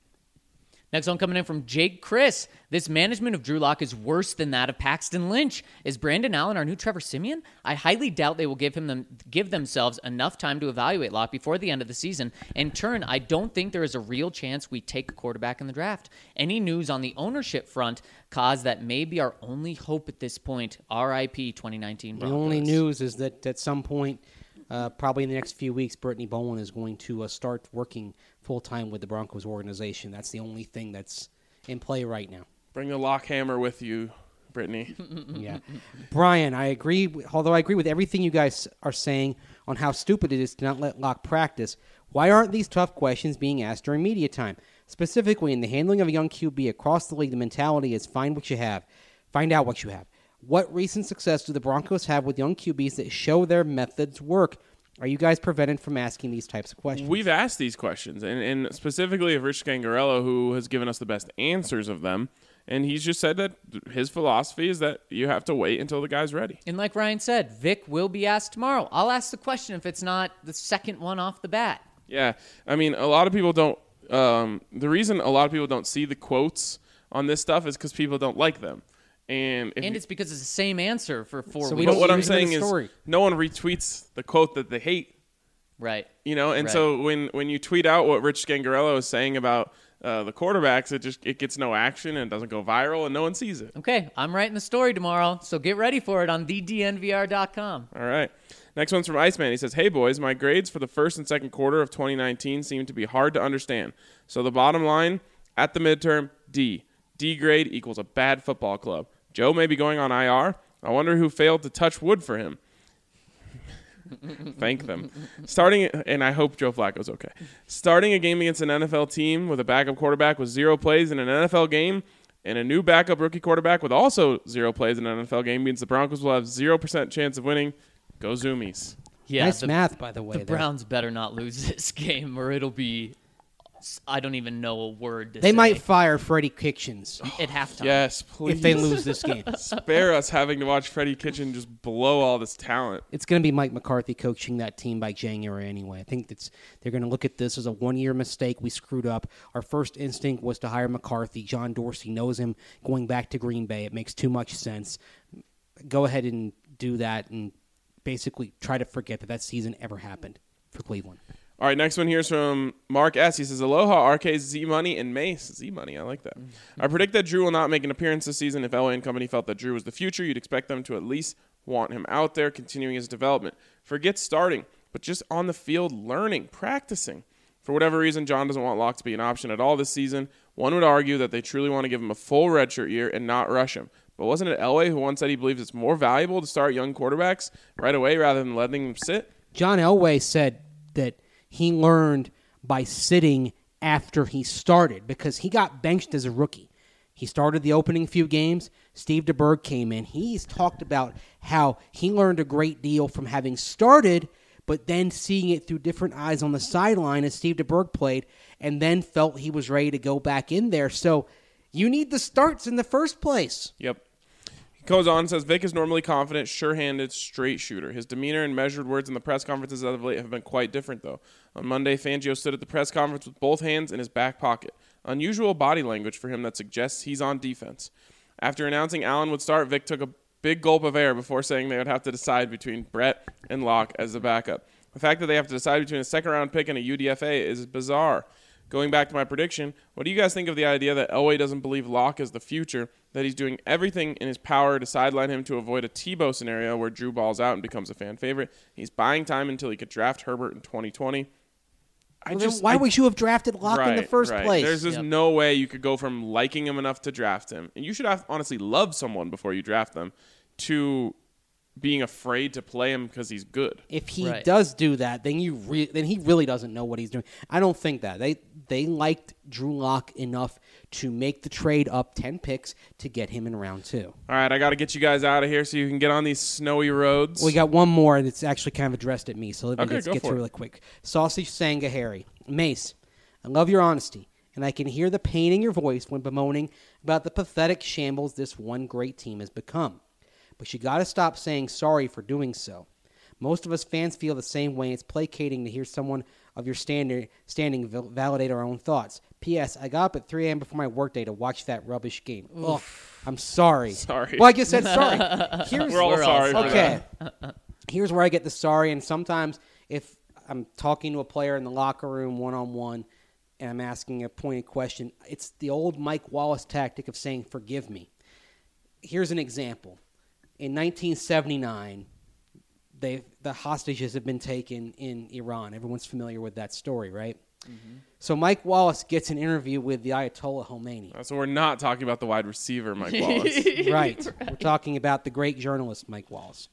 Next one coming in from Jake Chris. This management of Drew Lock is worse than that of Paxton Lynch. Is Brandon Allen our new Trevor Siemian? I highly doubt they will give themselves enough time to evaluate Lock before the end of the season. In turn, I don't think there is a real chance we take a quarterback in the draft. Any news on the ownership front cause that may be our only hope at this point. R.I.P. 2019 Broncos. The only news is that at some point, probably in the next few weeks, Brittany Bowen is going to start working full-time with the Broncos organization. That's the only thing that's in play right now. Bring the lock hammer with you, Brittany. Yeah. Brian, I agree. Although I agree with everything you guys are saying on how stupid it is to not let Locke practice, why aren't these tough questions being asked during media time? Specifically, in the handling of a young QB across the league, the mentality is find what you have. Find out what you have. What recent success do the Broncos have with young QBs that show their methods work? Are you guys prevented from asking these types of questions? We've asked these questions, and specifically of Rich Scangarello, who has given us the best answers of them. And he's just said that his philosophy is that you have to wait until the guy's ready. And like Ryan said, Vic will be asked tomorrow. I'll ask the question if it's not the second one off the bat. Yeah, I mean, a lot of people don't. The reason a lot of people don't see the quotes on this stuff is because people don't like them, and It's because it's the same answer for 4 So weeks. we don't what I'm use it in saying the is story. no one retweets the quote that they hate. Right. And Right. so when you tweet out what Rich Scangarello is saying about the quarterbacks, it gets no action and it doesn't go viral and no one sees it. Okay, I'm writing the story tomorrow, so get ready for it on thednvr.com. All right. Next one's from Iceman. He says, "Hey boys, my grades for the first and second quarter of 2019 seem to be hard to understand. So the bottom line at the midterm, D. D grade equals a bad football club. Joe may be going on IR. I wonder who failed to touch wood for him." Thank them. And I hope Joe Flacco's okay. Starting a game against an NFL team with a backup quarterback with 0 plays in an NFL game and a new backup rookie quarterback with also 0 plays in an NFL game means the Broncos will have 0% chance of winning. Go Zoomies. Yeah, Nice the, math, by the way. the there. Browns better not lose this game or it'll be, I don't even know a word to They say. might fire Freddie Kitchens At halftime. Yes, please. if they lose this game. Spare us having to watch Freddie Kitchen just blow all this talent. It's going to be Mike McCarthy coaching that team by January anyway. I think they're going to look at this as a one-year mistake. We screwed up. Our first instinct was to hire McCarthy. John Dorsey knows him going back to Green Bay. It makes too much sense. Go ahead and do that and basically try to forget that season ever happened for Cleveland. All right, next one here is from Mark S. He says, "Aloha, RK, Z-Money, and Mace." Z-Money, I like that. "I predict that Drew will not make an appearance this season. If LA and company felt that Drew was the future, you'd expect them to at least want him out there, continuing his development. Forget starting, but just on the field learning, practicing. For whatever reason, John doesn't want Locke to be an option at all this season. One would argue that they truly want to give him a full redshirt year and not rush him. But wasn't it Elway who once said he believes it's more valuable to start young quarterbacks right away rather than letting them sit?" John Elway said that he learned by sitting after he started because he got benched as a rookie. He started the opening few games. Steve DeBerg came in. He's talked about how he learned a great deal from having started, but then seeing it through different eyes on the sideline as Steve DeBerg played, and then felt he was ready to go back in there. So you need the starts in the first place. Yep. He goes on and says, "Vic is normally confident, sure-handed, straight shooter. His demeanor and measured words in the press conferences as of late have been quite different, though. On Monday, Fangio stood at the press conference with both hands in his back pocket. Unusual body language for him that suggests he's on defense. After announcing Allen would start, Vic took a big gulp of air before saying they would have to decide between Brett and Locke as the backup. The fact that they have to decide between a second-round pick and a UDFA is bizarre. Going back to my prediction, what do you guys think of the idea that Elway doesn't believe Locke is the future, that he's doing everything in his power to sideline him to avoid a Tebow scenario where Drew balls out and becomes a fan favorite? He's buying time until he could draft Herbert in 2020. Why would you have drafted Locke in the first place? There's just no way you could go from liking him enough to draft him, and you should have honestly love someone before you draft them, to being afraid to play him because he's good. If he Right. does do that, then then he really doesn't know what he's doing. I don't think that they liked Drew Lock enough to make the trade up 10 picks to get him in round 2. All right, I got to get you guys out of here so you can get on these snowy roads. We got one more that's actually kind of addressed at me, so let me Okay, just go get for to it. it really quick. Sausage Sangahari. Mace, I love your honesty, and I can hear the pain in your voice when bemoaning about the pathetic shambles this one great team has become. But you got to stop saying sorry for doing so. Most of us fans feel the same way. It's placating to hear someone of your standing validate our own thoughts. P.S. I got up at 3 a.m. before my workday to watch that rubbish game. Ugh, I'm sorry. Sorry. Well, I just said sorry. Here's, We're all sorry for okay. that. Here's where I get the sorry, and sometimes if I'm talking to a player in the locker room one-on-one and I'm asking a pointed question, it's the old Mike Wallace tactic of saying, forgive me. Here's an example. In 1979, the hostages have been taken in Iran. Everyone's familiar with that story, right? Mm-hmm. So Mike Wallace gets an interview with the Ayatollah Khomeini. So we're not talking about the wide receiver, Mike Wallace. Right. We're talking about the great journalist, Mike Wallace.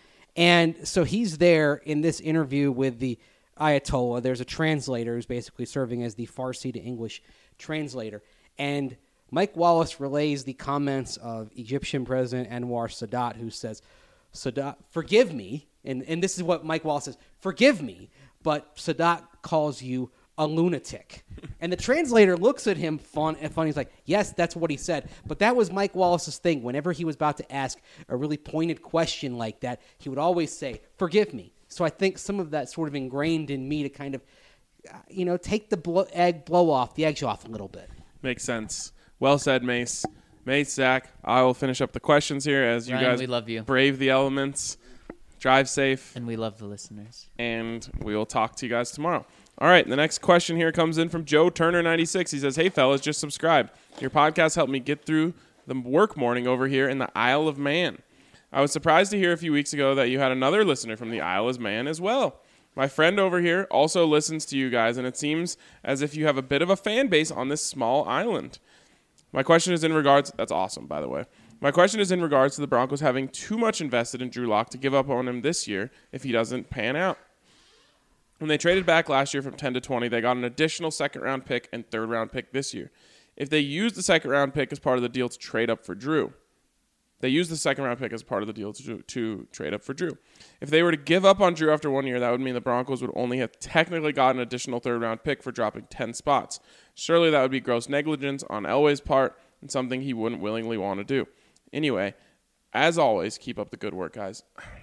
And so he's there in this interview with the Ayatollah. There's a translator who's basically serving as the Farsi to English translator. And Mike Wallace relays the comments of Egyptian President Anwar Sadat, who says, Sadat, forgive me, and this is what Mike Wallace says, forgive me, but Sadat calls you a lunatic. And the translator looks at him funny. He's like, yes, that's what he said. But that was Mike Wallace's thing. Whenever he was about to ask a really pointed question like that, he would always say, forgive me. So I think some of that sort of ingrained in me to kind of, take the eggs off a little bit. Makes sense. Well said, Mace. Mace, Zach, I will finish up the questions here as Ryan, you guys we love you. Brave the elements. Drive safe. And we love the listeners. And we will talk to you guys tomorrow. All right, the next question here comes in from Joe Turner96. He says, hey, fellas, just subscribe. Your podcast helped me get through the work morning over here in the Isle of Man. I was surprised to hear a few weeks ago that you had another listener from the Isle of Man as well. My friend over here also listens to you guys, and it seems as if you have a bit of a fan base on this small island. My question is in regards... That's awesome, by the way. My question is in regards to the Broncos having too much invested in Drew Lock to give up on him this year if he doesn't pan out. When they traded back last year from 10 to 20, they got an additional second-round pick and third-round pick this year. If they used the second-round pick as part of the deal to trade up for Drew, to trade up for Drew. If they were to give up on Drew after 1 year, that would mean the Broncos would only have technically got an additional third-round pick for dropping 10 spots. Surely that would be gross negligence on Elway's part and something he wouldn't willingly want to do. Anyway, as always, keep up the good work, guys.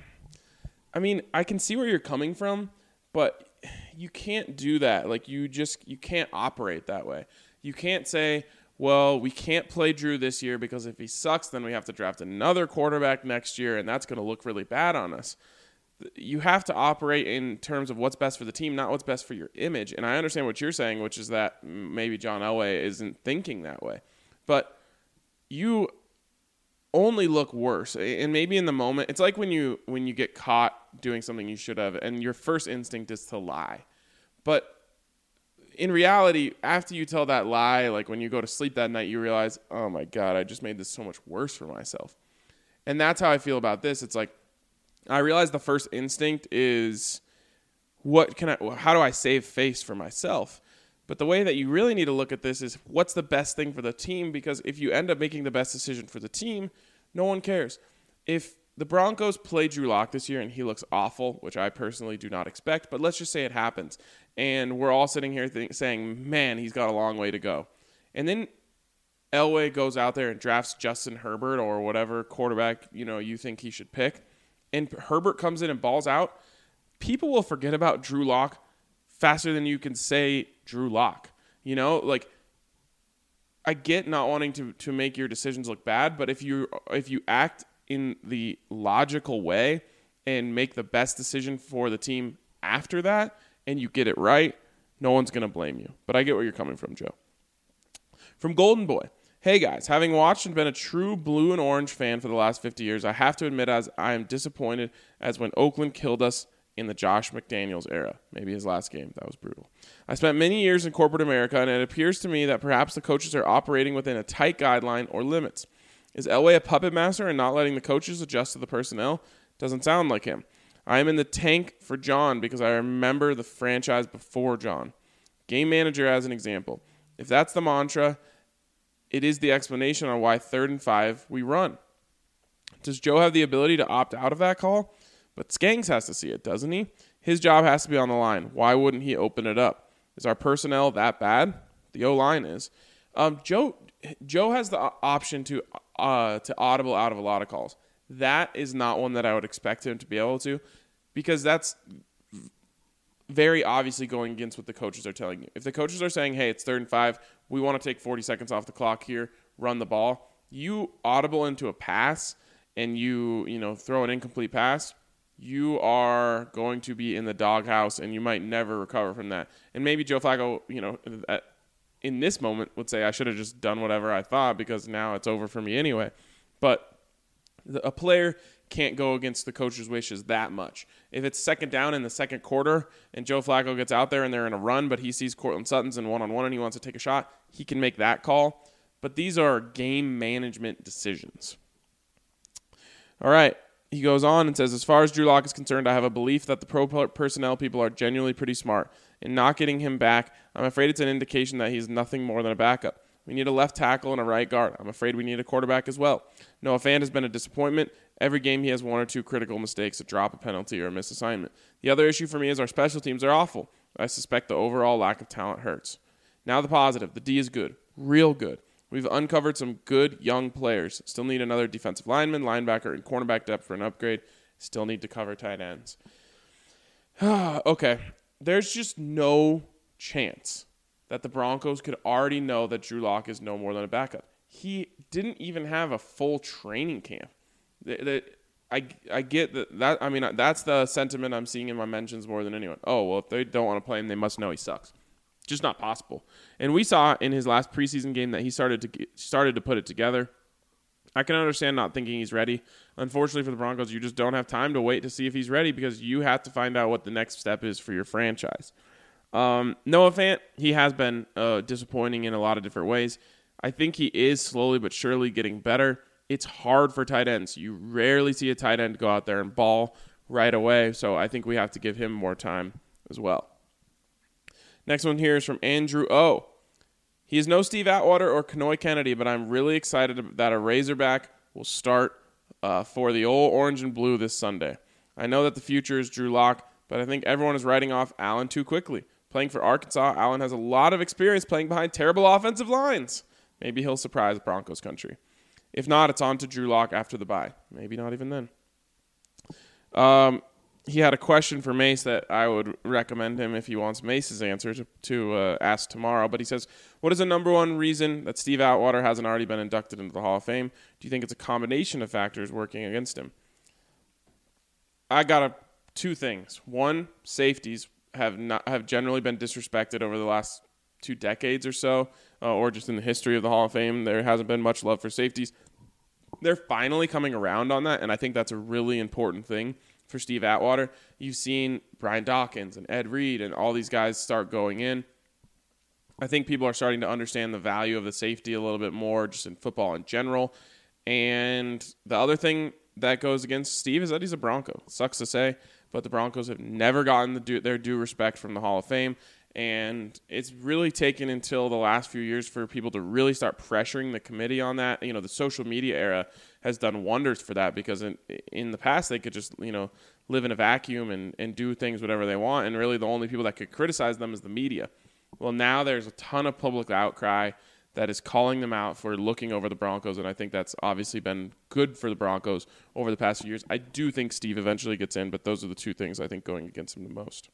I mean, I can see where you're coming from, but you can't do that. Like, you can't operate that way. You can't say, well, we can't play Drew this year because if he sucks, then we have to draft another quarterback next year, and that's going to look really bad on us. You have to operate in terms of what's best for the team, not what's best for your image. And I understand what you're saying, which is that maybe John Elway isn't thinking that way. But you only look worse. And maybe in the moment, it's like when you get caught doing something you should have, and your first instinct is to lie. But in reality, after you tell that lie, like when you go to sleep that night, you realize, oh my God, I just made this so much worse for myself. And that's how I feel about this. It's like, I realize the first instinct is, how do I save face for myself? But the way that you really need to look at this is, what's the best thing for the team? Because if you end up making the best decision for the team, no one cares. If the Broncos play Drew Lock this year and he looks awful, which I personally do not expect, but let's just say it happens, and we're all sitting here saying, man, he's got a long way to go. And then Elway goes out there and drafts Justin Herbert or whatever quarterback you think he should pick, and Herbert comes in and balls out, people will forget about Drew Lock faster than you can say Drew Lock. I get not wanting to make your decisions look bad, but if you act in the logical way and make the best decision for the team after that, and you get it right, no one's going to blame you. But I get where you're coming from, Joe. From Golden Boy. Hey, guys. Having watched and been a true blue and orange fan for the last 50 years, I have to admit as I am disappointed as when Oakland killed us in the Josh McDaniels era. Maybe his last game. That was brutal. I spent many years in corporate America, and it appears to me that perhaps the coaches are operating within a tight guideline or limits. Is Elway a puppet master and not letting the coaches adjust to the personnel? Doesn't sound like him. I am in the tank for John because I remember the franchise before John. Game manager as an example. If that's the mantra, it is the explanation on why 3rd and 5 we run. Does Joe have the ability to opt out of that call? But Skanks has to see it, doesn't he? His job has to be on the line. Why wouldn't he open it up? Is our personnel that bad? The O-line is. Joe has the option to audible out of a lot of calls. That is not one that I would expect him to be able to, because that's very obviously going against what the coaches are telling you. If the coaches are saying, hey, it's 3rd and 5, we want to take 40 seconds off the clock here, run the ball, you audible into a pass and you throw an incomplete pass, you are going to be in the doghouse and you might never recover from that. And maybe Joe Flacco, in this moment would say, I should have just done whatever I thought because now it's over for me anyway. But a player can't go against the coach's wishes that much. If it's 2nd down in the 2nd quarter and Joe Flacco gets out there and they're in a run, but he sees Cortland Sutton's in one-on-one and he wants to take a shot, he can make that call. But these are game management decisions. All right. He goes on and says, as far as Drew Lock is concerned, I have a belief that the pro personnel people are genuinely pretty smart. In not getting him back, I'm afraid it's an indication that he's nothing more than a backup. We need a left tackle and a right guard. I'm afraid we need a quarterback as well. Noah Fant has been a disappointment. Every game he has one or two critical mistakes, a drop, a penalty, or a missed assignment. The other issue for me is our special teams are awful. I suspect the overall lack of talent hurts. Now the positive. The D is good. Real good. We've uncovered some good young players. Still need another defensive lineman, linebacker, and cornerback depth for an upgrade. Still need to cover tight ends. Okay. There's just no chance that the Broncos could already know that Drew Lock is no more than a backup. He didn't even have a full training camp. I get that. I mean, that's the sentiment I'm seeing in my mentions more than anyone. Oh, well, if they don't want to play him, they must know he sucks. Just not possible. And we saw in his last preseason game that he started to put it together. I can understand not thinking he's ready. Unfortunately for the Broncos, you just don't have time to wait to see if he's ready because you have to find out what the next step is for your franchise. Noah Fant, he has been disappointing in a lot of different ways. I think he is slowly but surely getting better. It's hard for tight ends. You rarely see a tight end go out there and ball right away, so I think we have to give him more time as well. Next one here is from Andrew O. He is no Steve Atwater or Kanoy Kennedy, but I'm really excited that a Razorback will start for the old orange and blue this Sunday. I know that the future is Drew Lock, but I think everyone is writing off Allen too quickly. Playing for Arkansas, Allen has a lot of experience playing behind terrible offensive lines. Maybe he'll surprise Broncos country. If not, it's on to Drew Lock after the bye. Maybe not even then. He had a question for Mace that I would recommend him if he wants Mace's answer to ask tomorrow. But he says, what is the number one reason that Steve Atwater hasn't already been inducted into the Hall of Fame? Do you think it's a combination of factors working against him? I got two things. One, safeties have generally been disrespected over the last 2 decades or so, or just in the history of the Hall of Fame. There hasn't been much love for safeties. They're finally coming around on that, and I think that's a really important thing for Steve Atwater. You've seen Brian Dawkins and Ed Reed and all these guys start going in. I think people are starting to understand the value of the safety a little bit more just in football in general. And the other thing that goes against Steve is that he's a Bronco. Sucks to say, but the Broncos have never gotten their due respect from the Hall of Fame. And it's really taken until the last few years for people to really start pressuring the committee on that. You know, the social media era has done wonders for that because in the past they could just, live in a vacuum and do things whatever they want. And really the only people that could criticize them is the media. Well, now there's a ton of public outcry that is calling them out for looking over the Broncos. And I think that's obviously been good for the Broncos over the past few years. I do think Steve eventually gets in, but those are the two things I think going against him the most.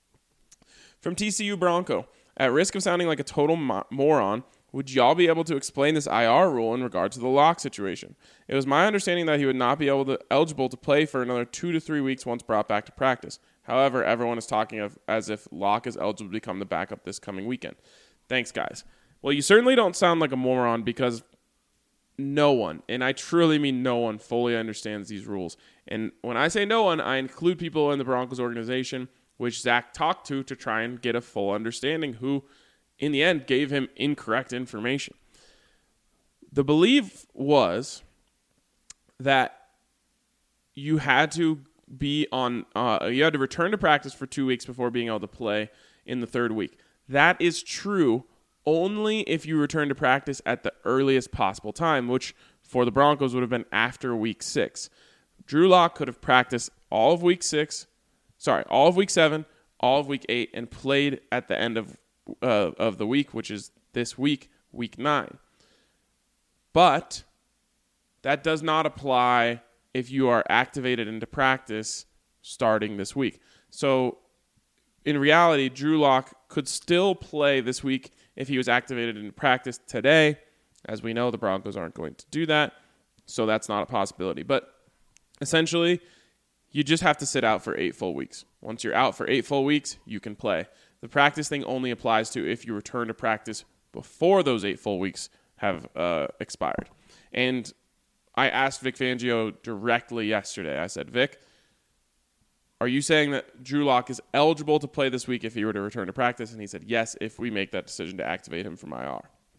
From TCU Bronco, at risk of sounding like a total moron, would y'all be able to explain this IR rule in regard to the Lock situation? It was my understanding that he would not be eligible to play for another 2 to 3 weeks once brought back to practice. However, everyone is talking as if Lock is eligible to become the backup this coming weekend. Thanks, guys. Well, you certainly don't sound like a moron because no one, and I truly mean no one, fully understands these rules. And when I say no one, I include people in the Broncos organization, which Zach talked to try and get a full understanding, who, in the end, gave him incorrect information. The belief was that you had to be you had to return to practice for 2 weeks before being able to play in the third week. That is true only if you return to practice at the earliest possible time, which for the Broncos would have been after week 6. Drew Lock could have practiced all of week 7, all of week 8, and played at the end of the week, which is this week, week 9. But that does not apply if you are activated into practice starting this week. So in reality, Drew Lock could still play this week if he was activated into practice today. As we know, the Broncos aren't going to do that, so that's not a possibility. But essentially, you just have to sit out for 8 full weeks. Once you're out for 8 full weeks, you can play. The practice thing only applies to if you return to practice before those 8 full weeks have expired. And I asked Vic Fangio directly yesterday. I said, Vic, are you saying that Drew Lock is eligible to play this week if he were to return to practice? And he said, yes, if we make that decision to activate him from IR.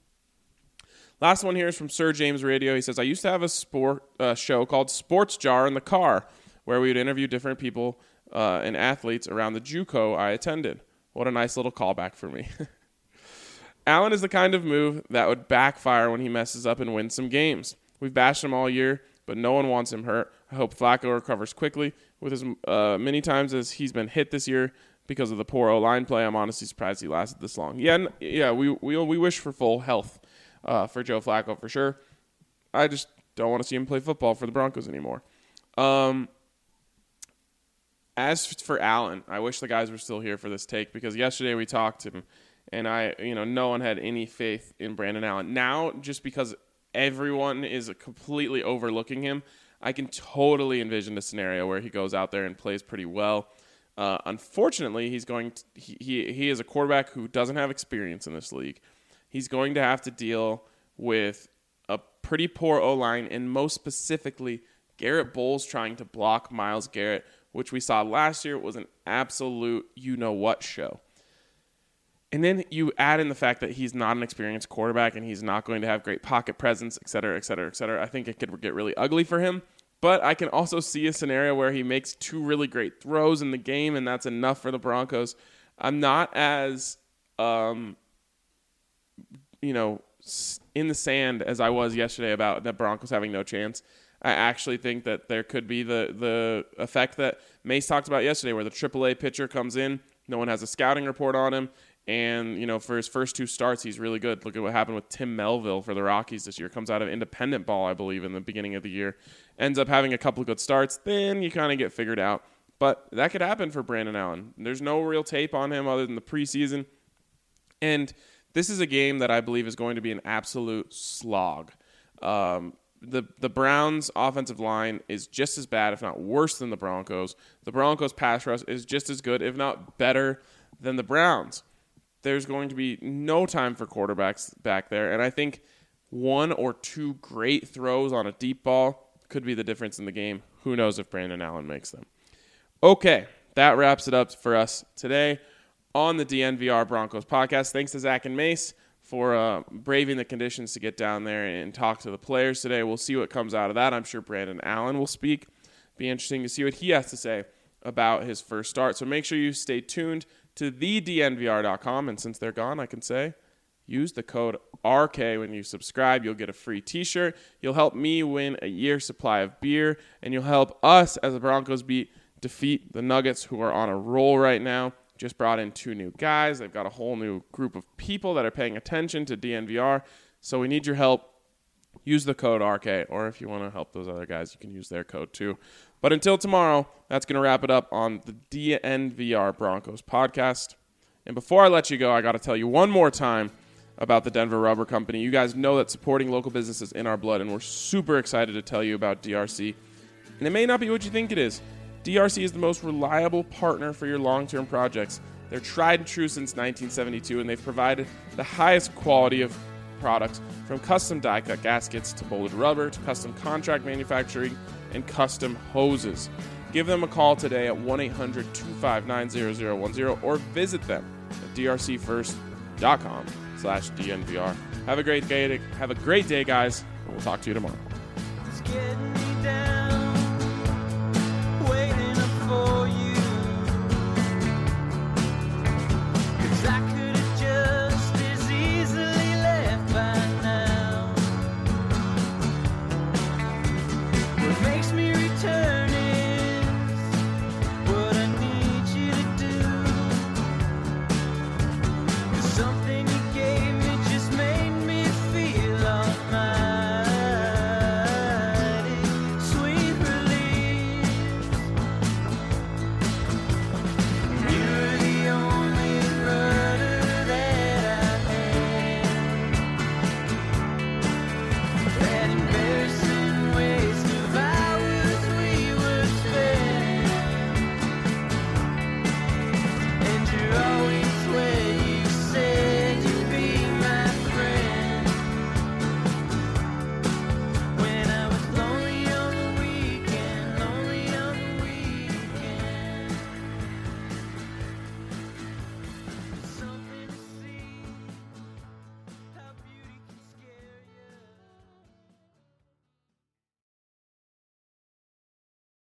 Last one here is from Sir James Radio. He says, I used to have a show called Sports Jar in the Car, where we would interview different people and athletes around the JUCO I attended. What a nice little callback for me. Allen is the kind of move that would backfire when he messes up and wins some games. We've bashed him all year, but no one wants him hurt. I hope Flacco recovers quickly. With as many times as he's been hit this year because of the poor O-line play, I'm honestly surprised he lasted this long. We wish for full health for Joe Flacco for sure. I just don't want to see him play football for the Broncos anymore. As for Allen, I wish the guys were still here for this take because yesterday we talked to him, and no one had any faith in Brandon Allen. Now, just because everyone is completely overlooking him, I can totally envision a scenario where he goes out there and plays pretty well. Unfortunately, he is a quarterback who doesn't have experience in this league. He's going to have to deal with a pretty poor O-line, and most specifically, Garrett Bowles trying to block Myles Garrett, which we saw last year was an absolute you-know-what show. And then you add in the fact that he's not an experienced quarterback and he's not going to have great pocket presence, et cetera, et cetera, et cetera. I think it could get really ugly for him. But I can also see a scenario where he makes 2 really great throws in the game, and that's enough for the Broncos. I'm not as, in the sand as I was yesterday about the Broncos having no chance. I actually think that there could be the effect that Mace talked about yesterday where the AAA pitcher comes in, no one has a scouting report on him, and, for his first 2 starts, he's really good. Look at what happened with Tim Melville for the Rockies this year. Comes out of independent ball, I believe, in the beginning of the year. Ends up having a couple of good starts. Then you kind of get figured out. But that could happen for Brandon Allen. There's no real tape on him other than the preseason. And this is a game that I believe is going to be an absolute slog. The Browns' offensive line is just as bad, if not worse, than the Broncos. The Broncos' pass rush is just as good, if not better, than the Browns. There's going to be no time for quarterbacks back there, and I think 1 or 2 great throws on a deep ball could be the difference in the game. Who knows if Brandon Allen makes them. Okay, that wraps it up for us today on the DNVR Broncos podcast. Thanks to Zach and Mace for braving the conditions to get down there and talk to the players today. We'll see what comes out of that. I'm sure Brandon Allen will speak. Be interesting to see what he has to say about his first start. So make sure you stay tuned to thednvr.com. And since they're gone, I can say use the code RK when you subscribe. You'll get a free t-shirt. You'll help me win a year's supply of beer. And you'll help us as the Broncos defeat the Nuggets, who are on a roll right now. Just brought in 2 new guys. They've got a whole new group of people that are paying attention to DNVR. So we need your help. Use the code RK. Or if you want to help those other guys, you can use their code too. But until tomorrow, that's going to wrap it up on the DNVR Broncos podcast. And before I let you go, I got to tell you one more time about the Denver Rubber Company. You guys know that supporting local businesses is in our blood, and we're super excited to tell you about DRC. And it may not be what you think it is. DRC is the most reliable partner for your long-term projects. They're tried and true since 1972, and they've provided the highest quality of products, from custom die-cut gaskets to molded rubber to custom contract manufacturing and custom hoses. Give them a call today at 1-800-259-0010 or visit them at drcfirst.com/DNVR. Have a great day, guys, and we'll talk to you tomorrow. It's getting